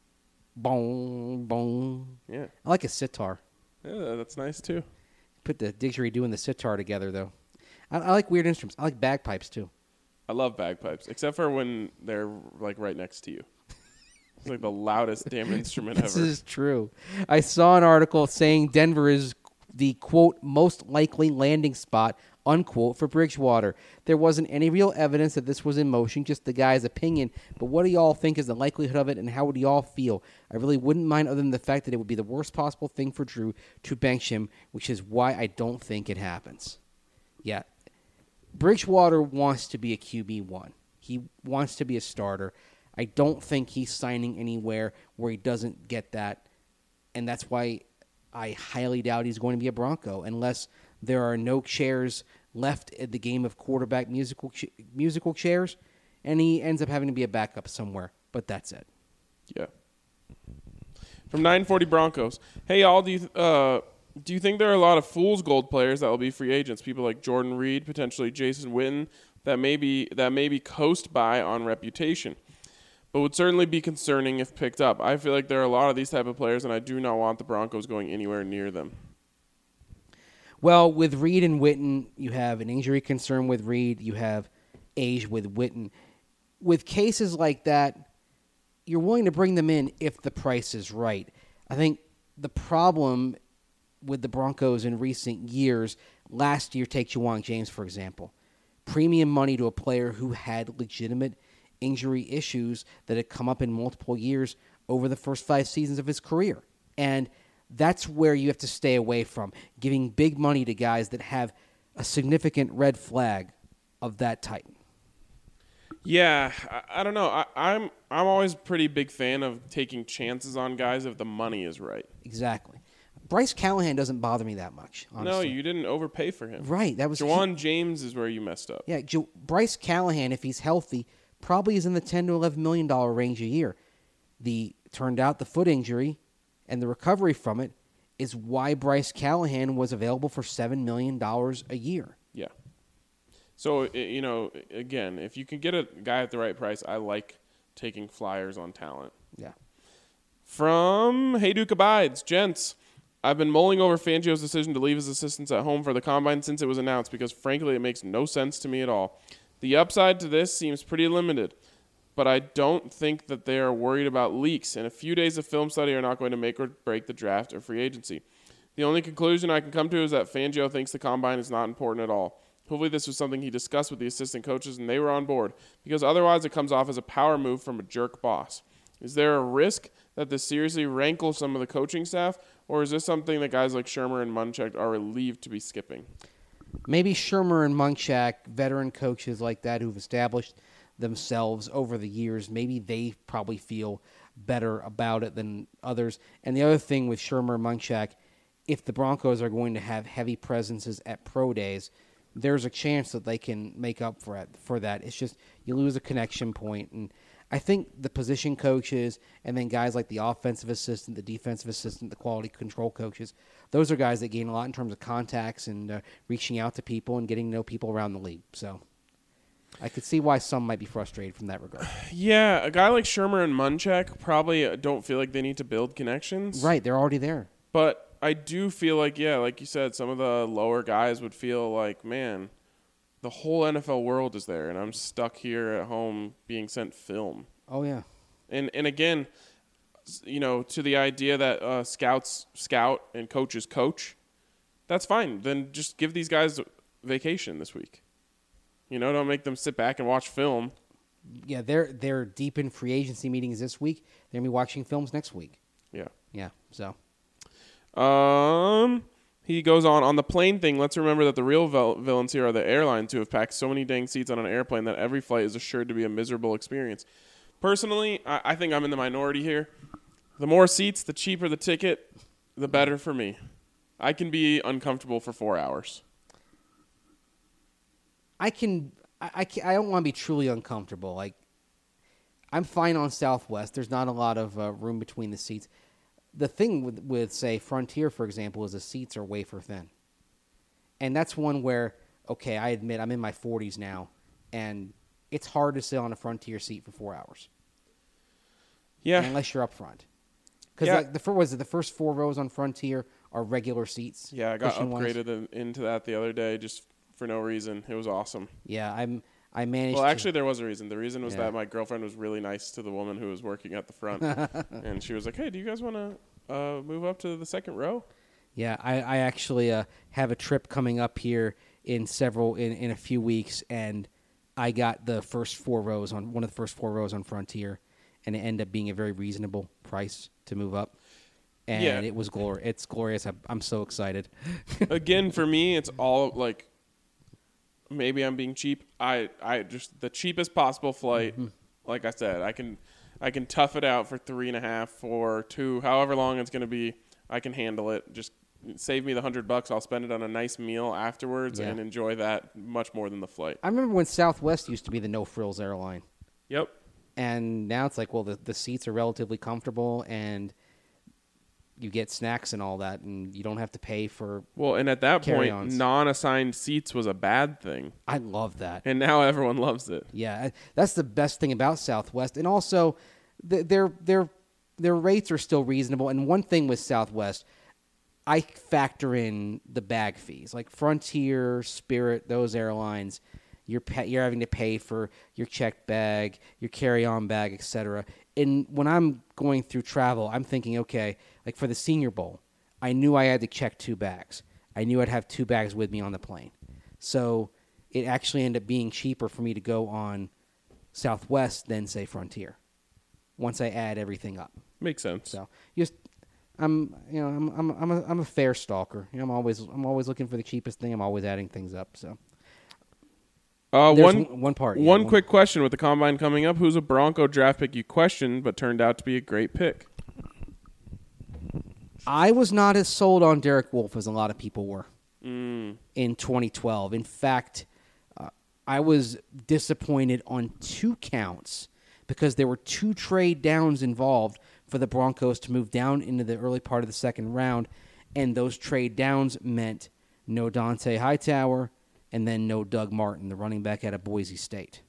Boom, boom. Yeah. I like a sitar. Yeah, that's nice too. Put the didgeridoo and the sitar together, though. I like weird instruments. I like bagpipes, too. I love bagpipes, except for when they're like right next to you. It's like the loudest damn instrument This ever. is true. I saw an article saying Denver is the, quote, most likely landing spot, unquote, for Bridgewater. There wasn't any real evidence that this was in motion, just the guy's opinion. But what do y'all think is the likelihood of it, and how would y'all feel? I really wouldn't mind, other than the fact that it would be the worst possible thing for Drew to bench him, which is why I don't think it happens. Yeah. Bridgewater wants to be a QB1. He wants to be a starter. I don't think he's signing anywhere where he doesn't get that, and that's why I highly doubt he's going to be a Bronco unless there are no chairs left at the game of quarterback musical chairs, and he ends up having to be a backup somewhere. But that's it. Yeah. From 940 Broncos. Hey, y'all, do you think there are a lot of fool's gold players that will be free agents? People like Jordan Reed, potentially Jason Witten, that may be coast by on reputation, but would certainly be concerning if picked up. I feel like there are a lot of these type of players, and I do not want the Broncos going anywhere near them. Well, with Reed and Witten, you have an injury concern with Reed. You have age with Witten. With cases like that, you're willing to bring them in if the price is right. I think the problem with the Broncos in recent years, last year, take Ja'Wuan James, for example. Premium money to a player who had legitimate injury issues that had come up in multiple years over the first 5 seasons of his career. And that's where you have to stay away from, giving big money to guys that have a significant red flag of that type. Yeah, I don't know. I'm always a pretty big fan of taking chances on guys if the money is right. Exactly. Bryce Callahan doesn't bother me that much, honestly. No, you didn't overpay for him. Right, that was Jawan James is where you messed up. Yeah, Bryce Callahan, if he's healthy, probably is in the $10 to $11 million range a year. Turned out the foot injury and the recovery from it is why Bryce Callahan was available for $7 million a year. Yeah. So, again, if you can get a guy at the right price, I like taking flyers on talent. Yeah. From Hey Duke Abides, gents, I've been mulling over Fangio's decision to leave his assistants at home for the combine since it was announced because, frankly, it makes no sense to me at all. The upside to this seems pretty limited, but I don't think that they are worried about leaks, and a few days of film study are not going to make or break the draft or free agency. The only conclusion I can come to is that Fangio thinks the combine is not important at all. Hopefully this was something he discussed with the assistant coaches and they were on board, because otherwise it comes off as a power move from a jerk boss. Is there a risk that this seriously rankles some of the coaching staff, or is this something that guys like Shermer and Munchak are relieved to be skipping? Maybe Shermer and Munchak, veteran coaches like that who've established themselves over the years, maybe they probably feel better about it than others. And the other thing with Shermer and Munchak, if the Broncos are going to have heavy presences at pro days, there's a chance that they can make up for that. It's just you lose a connection point. And I think the position coaches and then guys like the offensive assistant, the defensive assistant, the quality control coaches, those are guys that gain a lot in terms of contacts and reaching out to people and getting to know people around the league. So I could see why some might be frustrated from that regard. Yeah, a guy like Shermer and Munchak probably don't feel like they need to build connections. Right, they're already there. But I do feel like, yeah, like you said, some of the lower guys would feel like, man, the whole NFL world is there, and I'm stuck here at home being sent film. Oh, yeah. And again, to the idea that scouts scout and coaches coach, that's fine. Then just give these guys vacation this week. Don't make them sit back and watch film. Yeah, they're deep in free agency meetings this week. They're going to be watching films next week. Yeah. Yeah, so. He goes on the plane thing, let's remember that the real villains here are the airlines who have packed so many dang seats on an airplane that every flight is assured to be a miserable experience. Personally, I think I'm in the minority here. The more seats, the cheaper the ticket, the better for me. I can be uncomfortable for 4 hours. I don't want to be truly uncomfortable. Like, I'm fine on Southwest. There's not a lot of room between the seats. The thing with, say, Frontier, for example, is the seats are wafer thin. And that's one where, okay, I admit I'm in my 40s now, and it's hard to sit on a Frontier seat for 4 hours. Yeah. Unless you're up front. Because the first 4 rows on Frontier are regular seats. Yeah, I got upgraded into that the other day just for no reason. It was awesome. Yeah, I managed. Well, actually, there was a reason. The reason was that my girlfriend was really nice to the woman who was working at the front, and she was like, "Hey, do you guys want to move up to the second row?" Yeah, I actually have a trip coming up here in a few weeks, and I got the first 4 rows on one of the first 4 rows on Frontier, and it ended up being a very reasonable price to move up. And it was it's glorious. I'm so excited. Again, for me, it's all like. Maybe I'm being cheap. I just the cheapest possible flight. Mm-hmm. Like I said, I can tough it out for 3.5 or 2, however long it's going to be. I can handle it. Just save me the $100. I'll spend it on a nice meal afterwards and enjoy that much more than the flight. I remember when Southwest used to be the no frills airline. Yep. And now it's like, well, the seats are relatively comfortable and you get snacks and all that, and you don't have to pay for and at that carry-ons. point, non-assigned seats was a bad thing. I love that. And now everyone loves it. Yeah, that's the best thing about Southwest. And also, their rates are still reasonable. And one thing with Southwest, I factor in the bag fees. Like Frontier, Spirit, those airlines, you're having to pay for your checked bag, your carry-on bag, etc. And when I'm going through travel, I'm thinking, okay, like for the Senior Bowl, I knew I had to check 2 bags. I knew I'd have 2 bags with me on the plane. So it actually ended up being cheaper for me to go on Southwest than, say, Frontier once I add everything up. Makes sense. So I'm a fair stalker. I'm always looking for the cheapest thing. I'm always adding things up. So There's one part. One quick question with the combine coming up. Who's a Bronco draft pick you questioned but turned out to be a great pick? I was not as sold on Derek Wolfe as a lot of people were in 2012. In fact, I was disappointed on 2 counts because there were 2 trade downs involved for the Broncos to move down into the early part of the second round, and those trade downs meant no Dante Hightower and then no Doug Martin, the running back out of Boise State.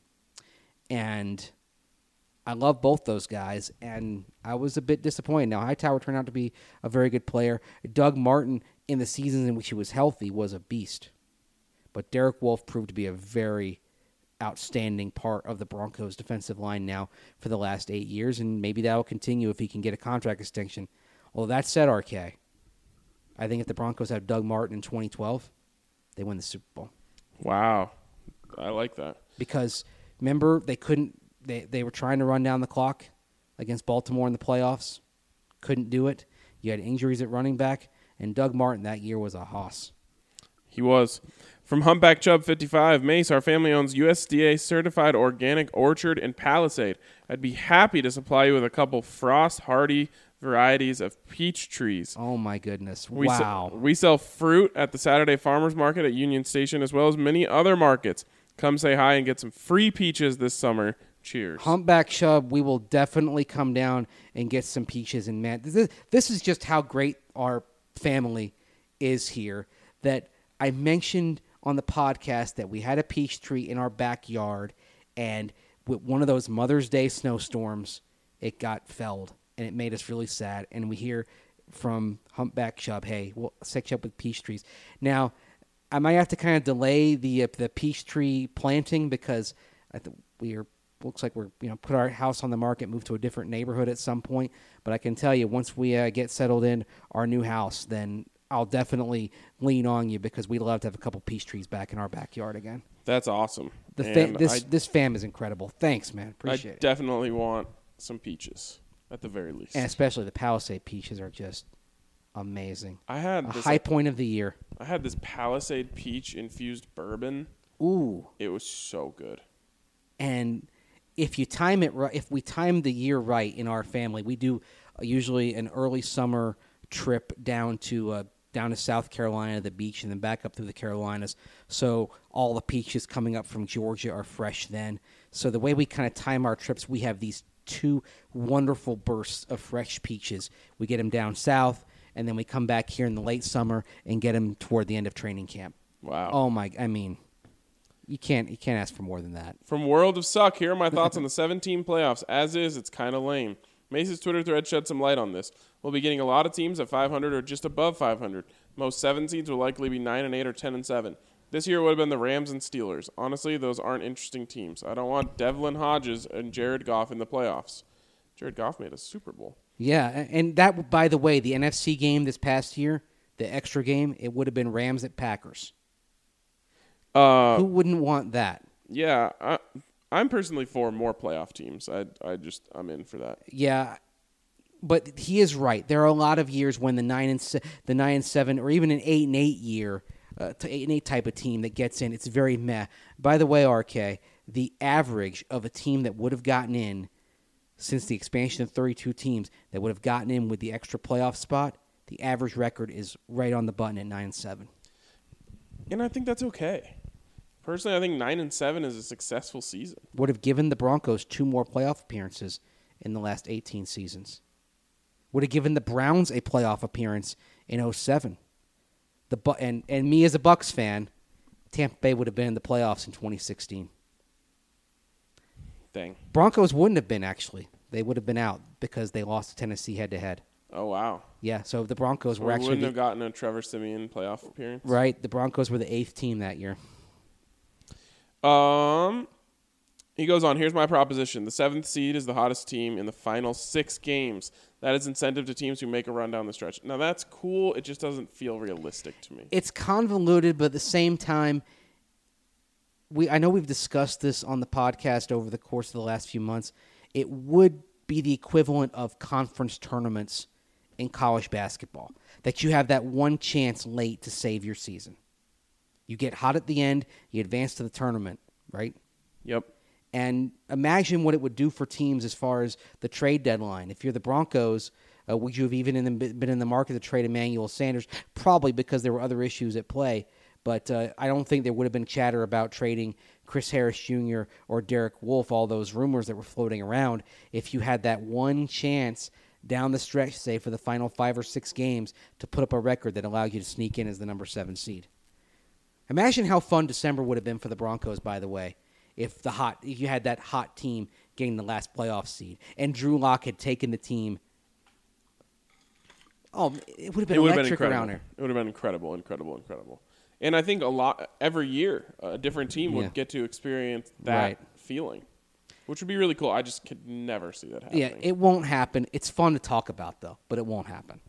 And I love both those guys, and I was a bit disappointed. Now, Hightower turned out to be a very good player. Doug Martin, in the seasons in which he was healthy, was a beast. But Derek Wolfe proved to be a very outstanding part of the Broncos' defensive line now for the last 8 years, and maybe that will continue if he can get a contract extension. Well, that said, RK, I think if the Broncos have Doug Martin in 2012, they win the Super Bowl. Wow. I like that. Because, remember, they were trying to run down the clock against Baltimore in the playoffs. Couldn't do it. You had injuries at running back, and Doug Martin that year was a hoss. He was. From Humpback Chubb 55, Mace, our family owns USDA certified organic orchard in Palisade. I'd be happy to supply you with a couple Frost Hardy varieties of peach trees. Oh, my goodness. Wow. We sell fruit at the Saturday Farmers Market at Union Station as well as many other markets. Come say hi and get some free peaches this summer. Cheers. Humpback Chubb, we will definitely come down and get some peaches. And, man, this is just how great our family is here. That I mentioned on the podcast that we had a peach tree in our backyard, and with one of those Mother's Day snowstorms, it got felled, and it made us really sad. And we hear from Humpback Chubb, hey, we'll set you up with peach trees. Now, I might have to kind of delay the peach tree planting because looks like we're put our house on the market, move to a different neighborhood at some point. But I can tell you, once we get settled in our new house, then I'll definitely lean on you because we'd love to have a couple peach trees back in our backyard again. That's awesome. This fam is incredible. Thanks, man. Appreciate it. I definitely want some peaches at the very least. And especially the Palisade peaches are just amazing. I had a high point of the year. I had this Palisade peach infused bourbon. Ooh. It was so good. And if you time it right, if we time the year right in our family, we do usually an early summer trip down to South Carolina, the beach, and then back up through the Carolinas. So all the peaches coming up from Georgia are fresh then. So the way we kind of time our trips, we have these 2 wonderful bursts of fresh peaches. We get them down south, and then we come back here in the late summer and get them toward the end of training camp. Wow. Oh my! I mean, you can't ask for more than that. From World of Suck, here are my thoughts on the 17 playoffs. As is, it's kind of lame. Mace's Twitter thread shed some light on this. We'll be getting a lot of teams at 500 or just above 500. Most 7 seeds will likely be 9-8 or 10-7. This year would have been the Rams and Steelers. Honestly, those aren't interesting teams. I don't want Devlin Hodges and Jared Goff in the playoffs. Jared Goff made a Super Bowl. Yeah, and that, by the way, the NFC game this past year, the extra game, it would have been Rams at Packers. Who wouldn't want that? Yeah, I'm personally for more playoff teams. I'm in for that. Yeah, but he is right. There are a lot of years when the 9-7, or even an 8-8 year, 8-8 type of team that gets in, it's very meh. By the way, RK, the average of a team that would have gotten in since the expansion of 32 teams that would have gotten in with the extra playoff spot, the average record is right on the button at 9-7. And I think that's okay. Personally, I think 9-7 is a successful season. Would have given the Broncos 2 more playoff appearances in the last 18 seasons. Would have given the Browns a playoff appearance in 2007. And me as a Bucs fan, Tampa Bay would have been in the playoffs in 2016. Dang. Broncos wouldn't have been, actually. They would have been out because they lost to Tennessee head-to-head. Oh, wow. Yeah, so the Broncos were actually... wouldn't have gotten a Trevor Siemian playoff appearance. Right, the Broncos were the 8th team that year. He goes on, here's my proposition. The 7th seed is the hottest team in the final 6 games. That is incentive to teams who make a run down the stretch. Now, that's cool. It just doesn't feel realistic to me. It's convoluted, but at the same time, I know we've discussed this on the podcast over the course of the last few months. It would be the equivalent of conference tournaments in college basketball, that you have that one chance late to save your season. You get hot at the end, you advance to the tournament. right? Yep. And imagine what it would do for teams as far as the trade deadline. If you're the Broncos, would you have even been in the market to trade Emmanuel Sanders? Probably, because there were other issues at play. But I don't think there would have been chatter about trading Chris Harris Jr. or Derek Wolfe, all those rumors that were floating around, if you had that one chance down the stretch, say, for the final 5 or 6 games to put up a record that allowed you to sneak in as the number 7 seed. Imagine how fun December would have been for the Broncos, by the way, if you had that hot team getting the last playoff seed and Drew Lock had taken the team. Oh, it would have been electric around there. It would have been incredible. And I think every year, a different team would get to experience that feeling, which would be really cool. I just could never see that happening. Yeah, it won't happen. It's fun to talk about, though, but it won't happen.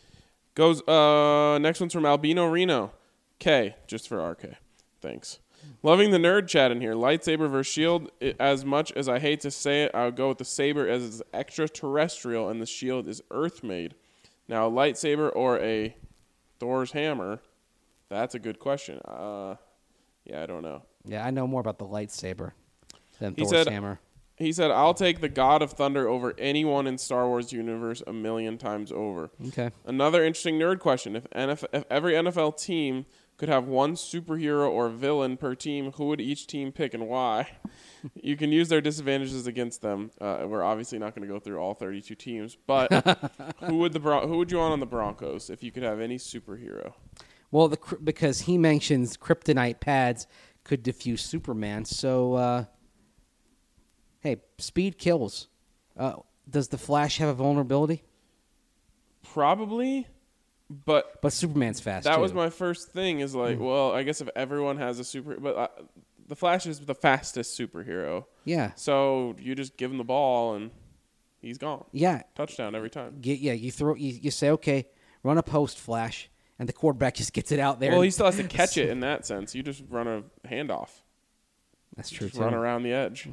Next one's from Albino Reno. K, just for RK. Thanks. Loving the nerd chat in here. Lightsaber versus shield. As much as I hate to say it, I would go with the saber as it's extraterrestrial and the shield is earth-made. Now, a lightsaber or a Thor's hammer, that's a good question. I don't know. Yeah, I know more about the lightsaber than Thor's hammer. He said, I'll take the God of Thunder over anyone in Star Wars universe 1,000,000 times over. Okay. Another interesting nerd question. If every NFL team could have one superhero or villain per team, who would each team pick and why? You can use their disadvantages against them. We're obviously not going to go through all 32 teams, but who would you want on the Broncos if you could have any superhero? Well, because he mentions kryptonite pads could defuse Superman, so hey, speed kills. Does the Flash have a vulnerability? Probably. But Superman's fast. That too. was my first thing. Is like, well, I guess if everyone has a but the Flash is the fastest superhero. Yeah. So you just give him the ball and he's gone. Yeah. Touchdown every time. You say, okay, run a post, Flash, and the quarterback just gets it out there. Well, he still has to catch it in that sense. You just run a handoff. That's true. Just run around the edge.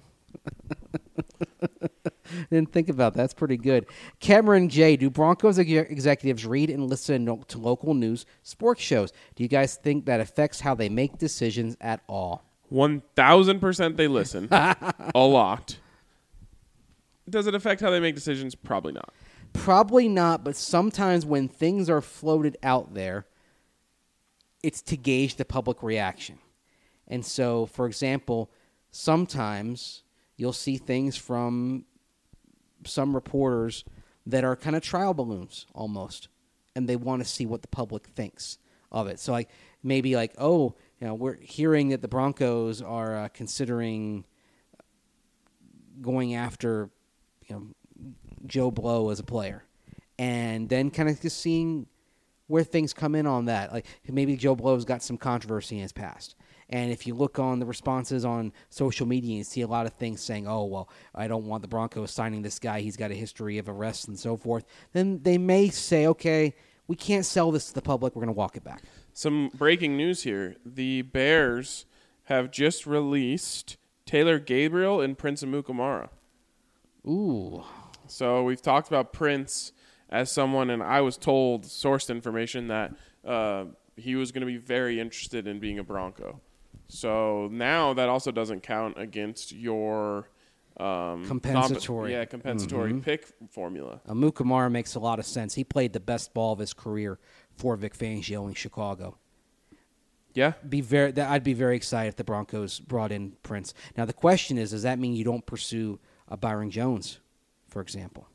Didn't think about that. That's pretty good. Cameron J. Do Broncos executives read and listen to local news sports shows? Do you guys think that affects how they make decisions at all? 1,000% they listen. A lot. Does it affect how they make decisions? Probably not. Probably not, but sometimes when things are floated out there, it's to gauge the public reaction. And so, for example, sometimes you'll see things from some reporters that are kind of trial balloons almost, and they want to see what the public thinks of it. So maybe we're hearing that the Broncos are considering going after Joe Blow as a player, and then kind of just seeing where things come in on that. Like maybe Joe Blow's got some controversy in his past. And if you look on the responses on social media, you see a lot of things saying, oh, well, I don't want the Broncos signing this guy. He's got a history of arrests and so forth. Then they may say, okay, we can't sell this to the public. We're going to walk it back. Some breaking news here. The Bears have just released Taylor Gabriel and Prince Amukamara. Ooh. So we've talked about Prince as someone, and I was told, sourced information, that he was going to be very interested in being a Bronco. So now that also doesn't count against your compensatory pick formula. Amukamara makes a lot of sense. He played the best ball of his career for Vic Fangio in Chicago. Yeah. I'd be very excited if the Broncos brought in Prince. Now the question is, does that mean you don't pursue a Byron Jones, for example?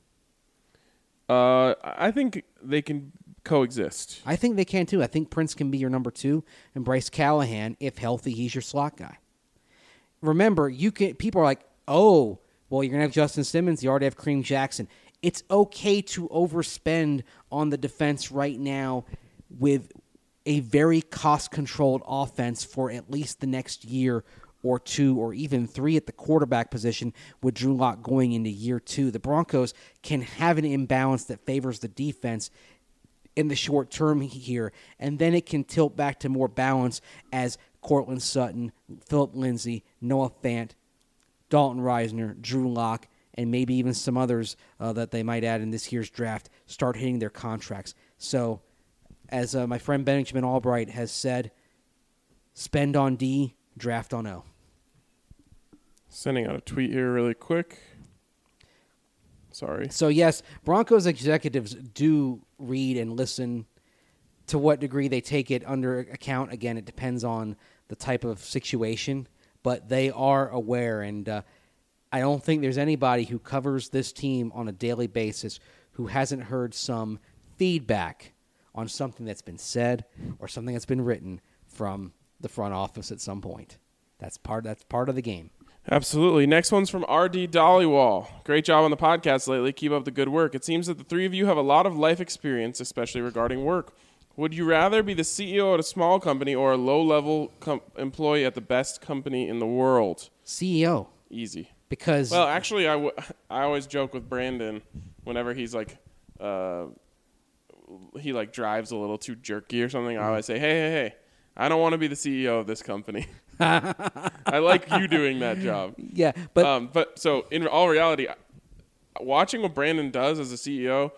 I think they can coexist. I think they can too. I think Prince can be your number 2, and Bryce Callahan, if healthy, he's your slot guy. Remember, people are like, oh, well, you're gonna have Justin Simmons. You already have Kareem Jackson. It's okay to overspend on the defense right now with a very cost-controlled offense for at least the next year or 2 or even 3 at the quarterback position with Drew Lock going into year 2. The Broncos can have an imbalance that favors the defense in the short term here, and then it can tilt back to more balance as Cortland Sutton, Philip Lindsay, Noah Fant, Dalton Reisner, Drew Lock, and maybe even some others that they might add in this year's draft start hitting their contracts. So, as my friend Benjamin Albright has said, spend on D, draft on O. Sending out a tweet here really quick. Sorry. So, yes, Broncos executives do read and listen. To what degree they take it under account, again, it depends on the type of situation, but they are aware, and I don't think there's anybody who covers this team on a daily basis who hasn't heard some feedback on something that's been said or something that's been written from the front office at some point. That's part of the game. Absolutely. Next one's from RD Dollywall. Great job on the podcast lately. Keep up the good work. It seems that the three of you have a lot of life experience, especially regarding work. Would you rather be the CEO at a small company or a low-level employee at the best company in the world? CEO. Easy. Because Well, actually, I always joke with Brandon whenever he's like, he like drives a little too jerky or something. I always say, hey, I don't want to be the CEO of this company. I like you doing that job. yeah, but But so in all reality, watching what Brandon does as a CEO,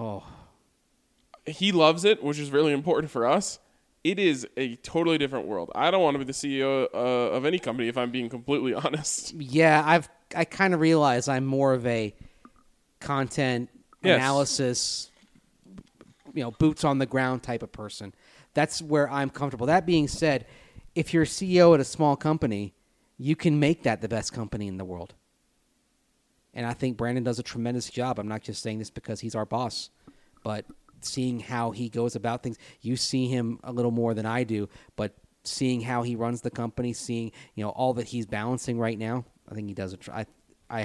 he loves it, which is really important for us. It is a totally different world. I don't want to be the CEO of any company if I'm being completely honest. yeah, I kind of realize I'm more of a content Yes. analysis, boots on the ground type of person. That's where I'm comfortable. That being said, if you're a CEO at a small company, you can make that the best company in the world. And I think Brandon does a tremendous job. I'm not just saying this because he's our boss, but seeing how he goes about things. You see him a little more than I do, but seeing how he runs the company, seeing all that he's balancing right now, I think he does it. I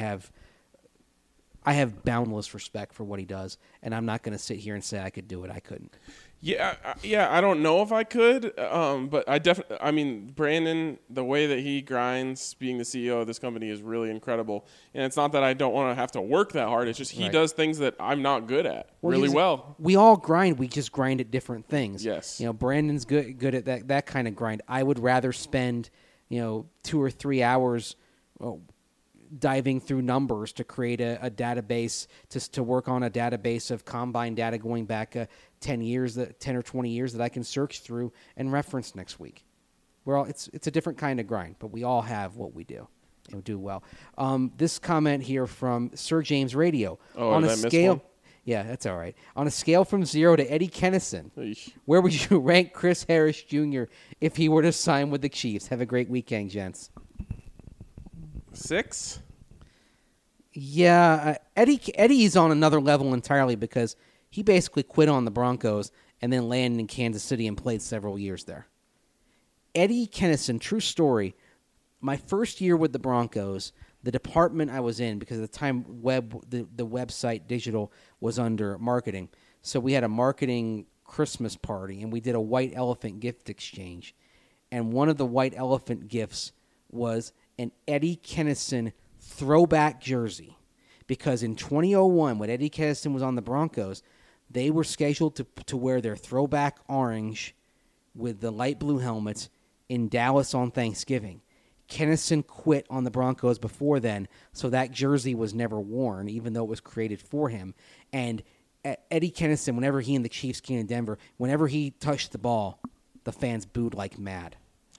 have boundless respect for what he does, and I'm not going to sit here and say I could do it. I couldn't. Yeah, I don't know if I could, but I mean, Brandon, the way that he grinds being the CEO of this company is really incredible. And it's not that I don't want to have to work that hard. It's just he Right. does things that I'm not good at really he's- well. We all grind. We just grind at different things. Yes. Brandon's good at that kind of grind. I would rather spend 2 or 3 hours diving through numbers to create a database to work on a database of combine data going back 10 or 20 years that I can search through and reference next week. It's a different kind of grind, but we all have what we do and we do well. This comment here from Sir James Radio. Oh, on did a I miss scale, one? Yeah, that's all right. On a scale from 0 to Eddie Kennison, Eesh. where would you rank Chris Harris Jr. if he were to sign with the Chiefs? Have a great weekend, gents. 6? Yeah, Eddie's on another level entirely because he basically quit on the Broncos and then landed in Kansas City and played several years there. Eddie Kennison, true story. My first year with the Broncos, the department I was in, because at the time the website digital was under marketing, so we had a marketing Christmas party and we did a white elephant gift exchange, and one of the white elephant gifts was an Eddie Kennison throwback jersey, because in 2001 when Eddie Kennison was on the Broncos, they were scheduled to wear their throwback orange with the light blue helmets in Dallas on Thanksgiving. Kennison quit on the Broncos before then, so that jersey was never worn, even though it was created for him. And Eddie Kennison, whenever he and the Chiefs came to Denver, whenever he touched the ball, the fans booed like mad.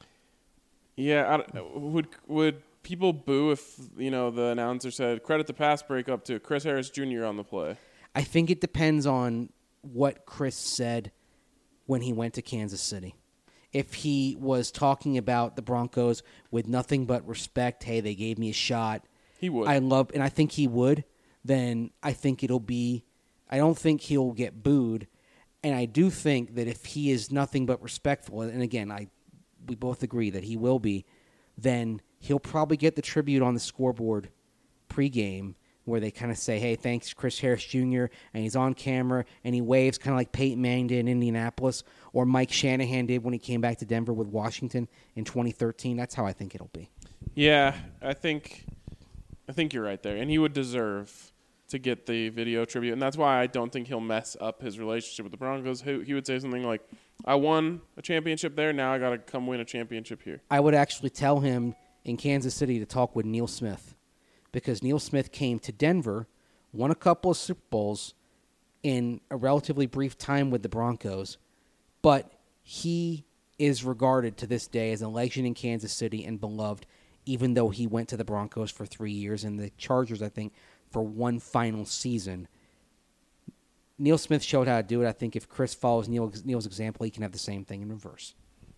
Yeah, would people boo if the announcer said credit the pass breakup to Chris Harris Jr. on the play? I think it depends on what Chris said when he went to Kansas City. If he was talking about the Broncos with nothing but respect, hey, they gave me a shot. He would. And I think he would, then I think it'll be, I don't think he'll get booed. And I do think that if he is nothing but respectful, and again, we both agree that he will be, then he'll probably get the tribute on the scoreboard pregame where they kind of say, hey, thanks, Chris Harris Jr., and he's on camera, and he waves kind of like Peyton Manning did in Indianapolis, or Mike Shanahan did when he came back to Denver with Washington in 2013. That's how I think it'll be. Yeah, I think you're right there. And he would deserve to get the video tribute, and that's why I don't think he'll mess up his relationship with the Broncos. He would say something like, I won a championship there, now I got to come win a championship here. I would actually tell him in Kansas City to talk with Neil Smith, because Neil Smith came to Denver, won a couple of Super Bowls in a relatively brief time with the Broncos, but he is regarded to this day as a legend in Kansas City and beloved even though he went to the Broncos for 3 years and the Chargers, I think, for one final season. Neil Smith showed how to do it. I think if Chris follows Neil's example, he can have the same thing in reverse.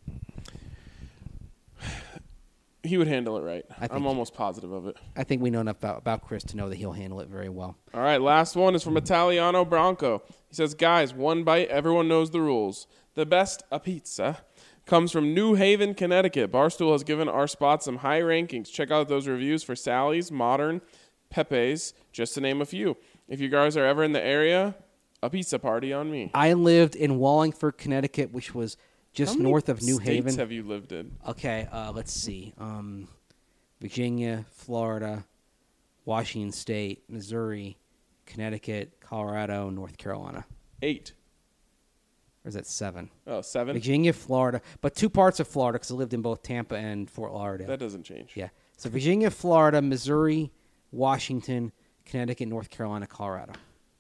He would handle it right. I think I'm almost positive of it. I think we know enough about Chris to know that he'll handle it very well. All right, last one is from Italiano Bronco. He says, guys, one bite, everyone knows the rules. The best a pizza comes from New Haven, Connecticut. Barstool has given our spot some high rankings. Check out those reviews for Sally's, Modern, Pepe's, just to name a few. If you guys are ever in the area, a pizza party on me. I lived in Wallingford, Connecticut, which was just north of New Haven. How many states have you lived in? Okay, let's see. Virginia, Florida, Washington State, Missouri, Connecticut, Colorado, North Carolina. 8. Or is that 7? Oh, 7? Virginia, Florida, but 2 parts of Florida because I lived in both Tampa and Fort Lauderdale. That doesn't change. Yeah. So Virginia, Florida, Missouri, Washington, Connecticut, North Carolina, Colorado.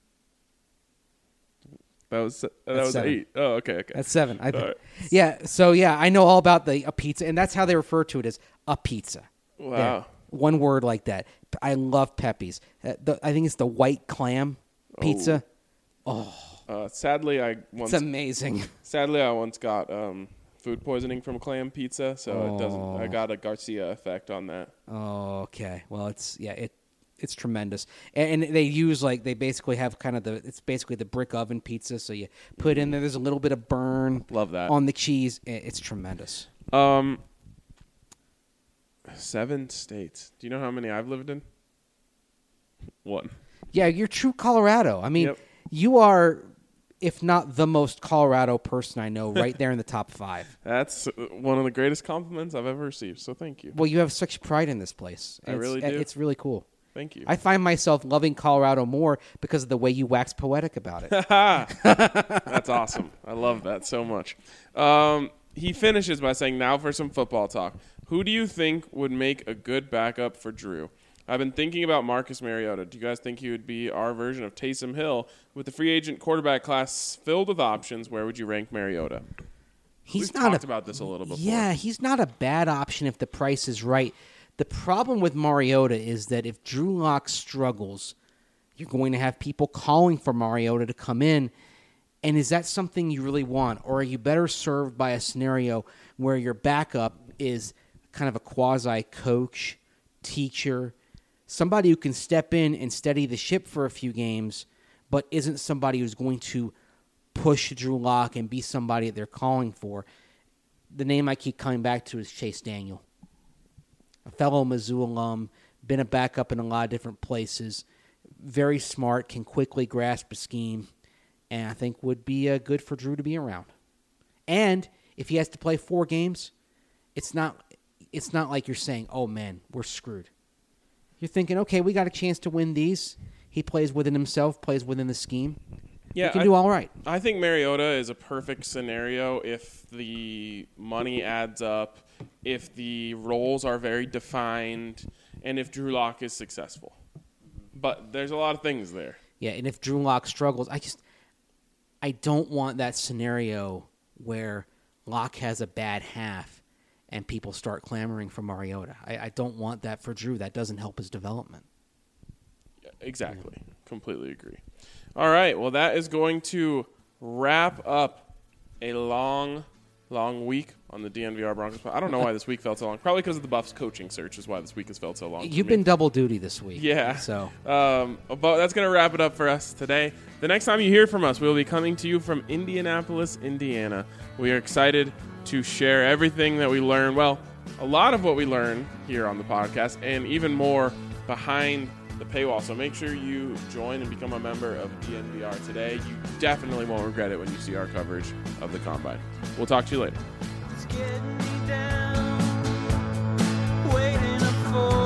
That was 7. 8. Oh, okay. That's 7. I think. All right. Yeah. So yeah, I know all about a pizza, and that's how they refer to it as a pizza. Wow. There. One word like that. I love Pepe's. I think it's the white clam pizza. Sadly, I It's amazing. once got food poisoning from clam pizza, so it doesn't. I got a Garcia effect on that. Oh, okay. Well, it's tremendous, and they use they basically have kind of it's basically the brick oven pizza. So you put it in there. There's a little bit of burn. Love that on the cheese. It's tremendous. 7 states. Do you know how many I've lived in? 1. Yeah, you're true Colorado. I mean, Yep. You are, if not the most Colorado person I know, right there in the top 5. That's one of the greatest compliments I've ever received, so thank you. Well, you have such pride in this place. I really do. It's really cool. Thank you. I find myself loving Colorado more because of the way you wax poetic about it. That's awesome. I love that so much. He finishes by saying, now for some football talk. Who do you think would make a good backup for Drew? I've been thinking about Marcus Mariota. Do you guys think he would be our version of Taysom Hill? With the free agent quarterback class filled with options, where would you rank Mariota? We've talked about this a little before. Yeah, he's not a bad option if the price is right. The problem with Mariota is that if Drew Lock struggles, you're going to have people calling for Mariota to come in. And is that something you really want? Or are you better served by a scenario where your backup is kind of a quasi-coach, teacher, somebody who can step in and steady the ship for a few games, but isn't somebody who's going to push Drew Lock and be somebody that they're calling for? The name I keep coming back to is Chase Daniel. A fellow Mizzou alum, been a backup in a lot of different places, very smart, can quickly grasp a scheme, and I think would be good for Drew to be around. And if he has to play 4 games, it's not like you're saying, oh, man, we're screwed. You're thinking, okay, we got a chance to win these. He plays within himself, plays within the scheme. Yeah, he can do all right. I think Mariota is a perfect scenario if the money adds up, if the roles are very defined, and if Drew Lock is successful. But there's a lot of things there. Yeah, and if Drew Lock struggles, I don't want that scenario where Lock has a bad half and people start clamoring for Mariota. I don't want that for Drew. That doesn't help his development. Exactly. Completely agree. All right. Well, that is going to wrap up a long week on the DNVR Broncos. I don't know why this week felt so long. Probably because of the Buffs coaching search is why this week has felt so long. You've been double duty this week. Yeah. So, but that's going to wrap it up for us today. The next time you hear from us, we'll be coming to you from Indianapolis, Indiana. We are excited to share everything that we learn. Well, a lot of what we learn here on the podcast and even more behind the paywall. So make sure you join and become a member of DNVR today. You definitely won't regret it when you see our coverage of the Combine. We'll talk to you later. It's getting me down, waiting up for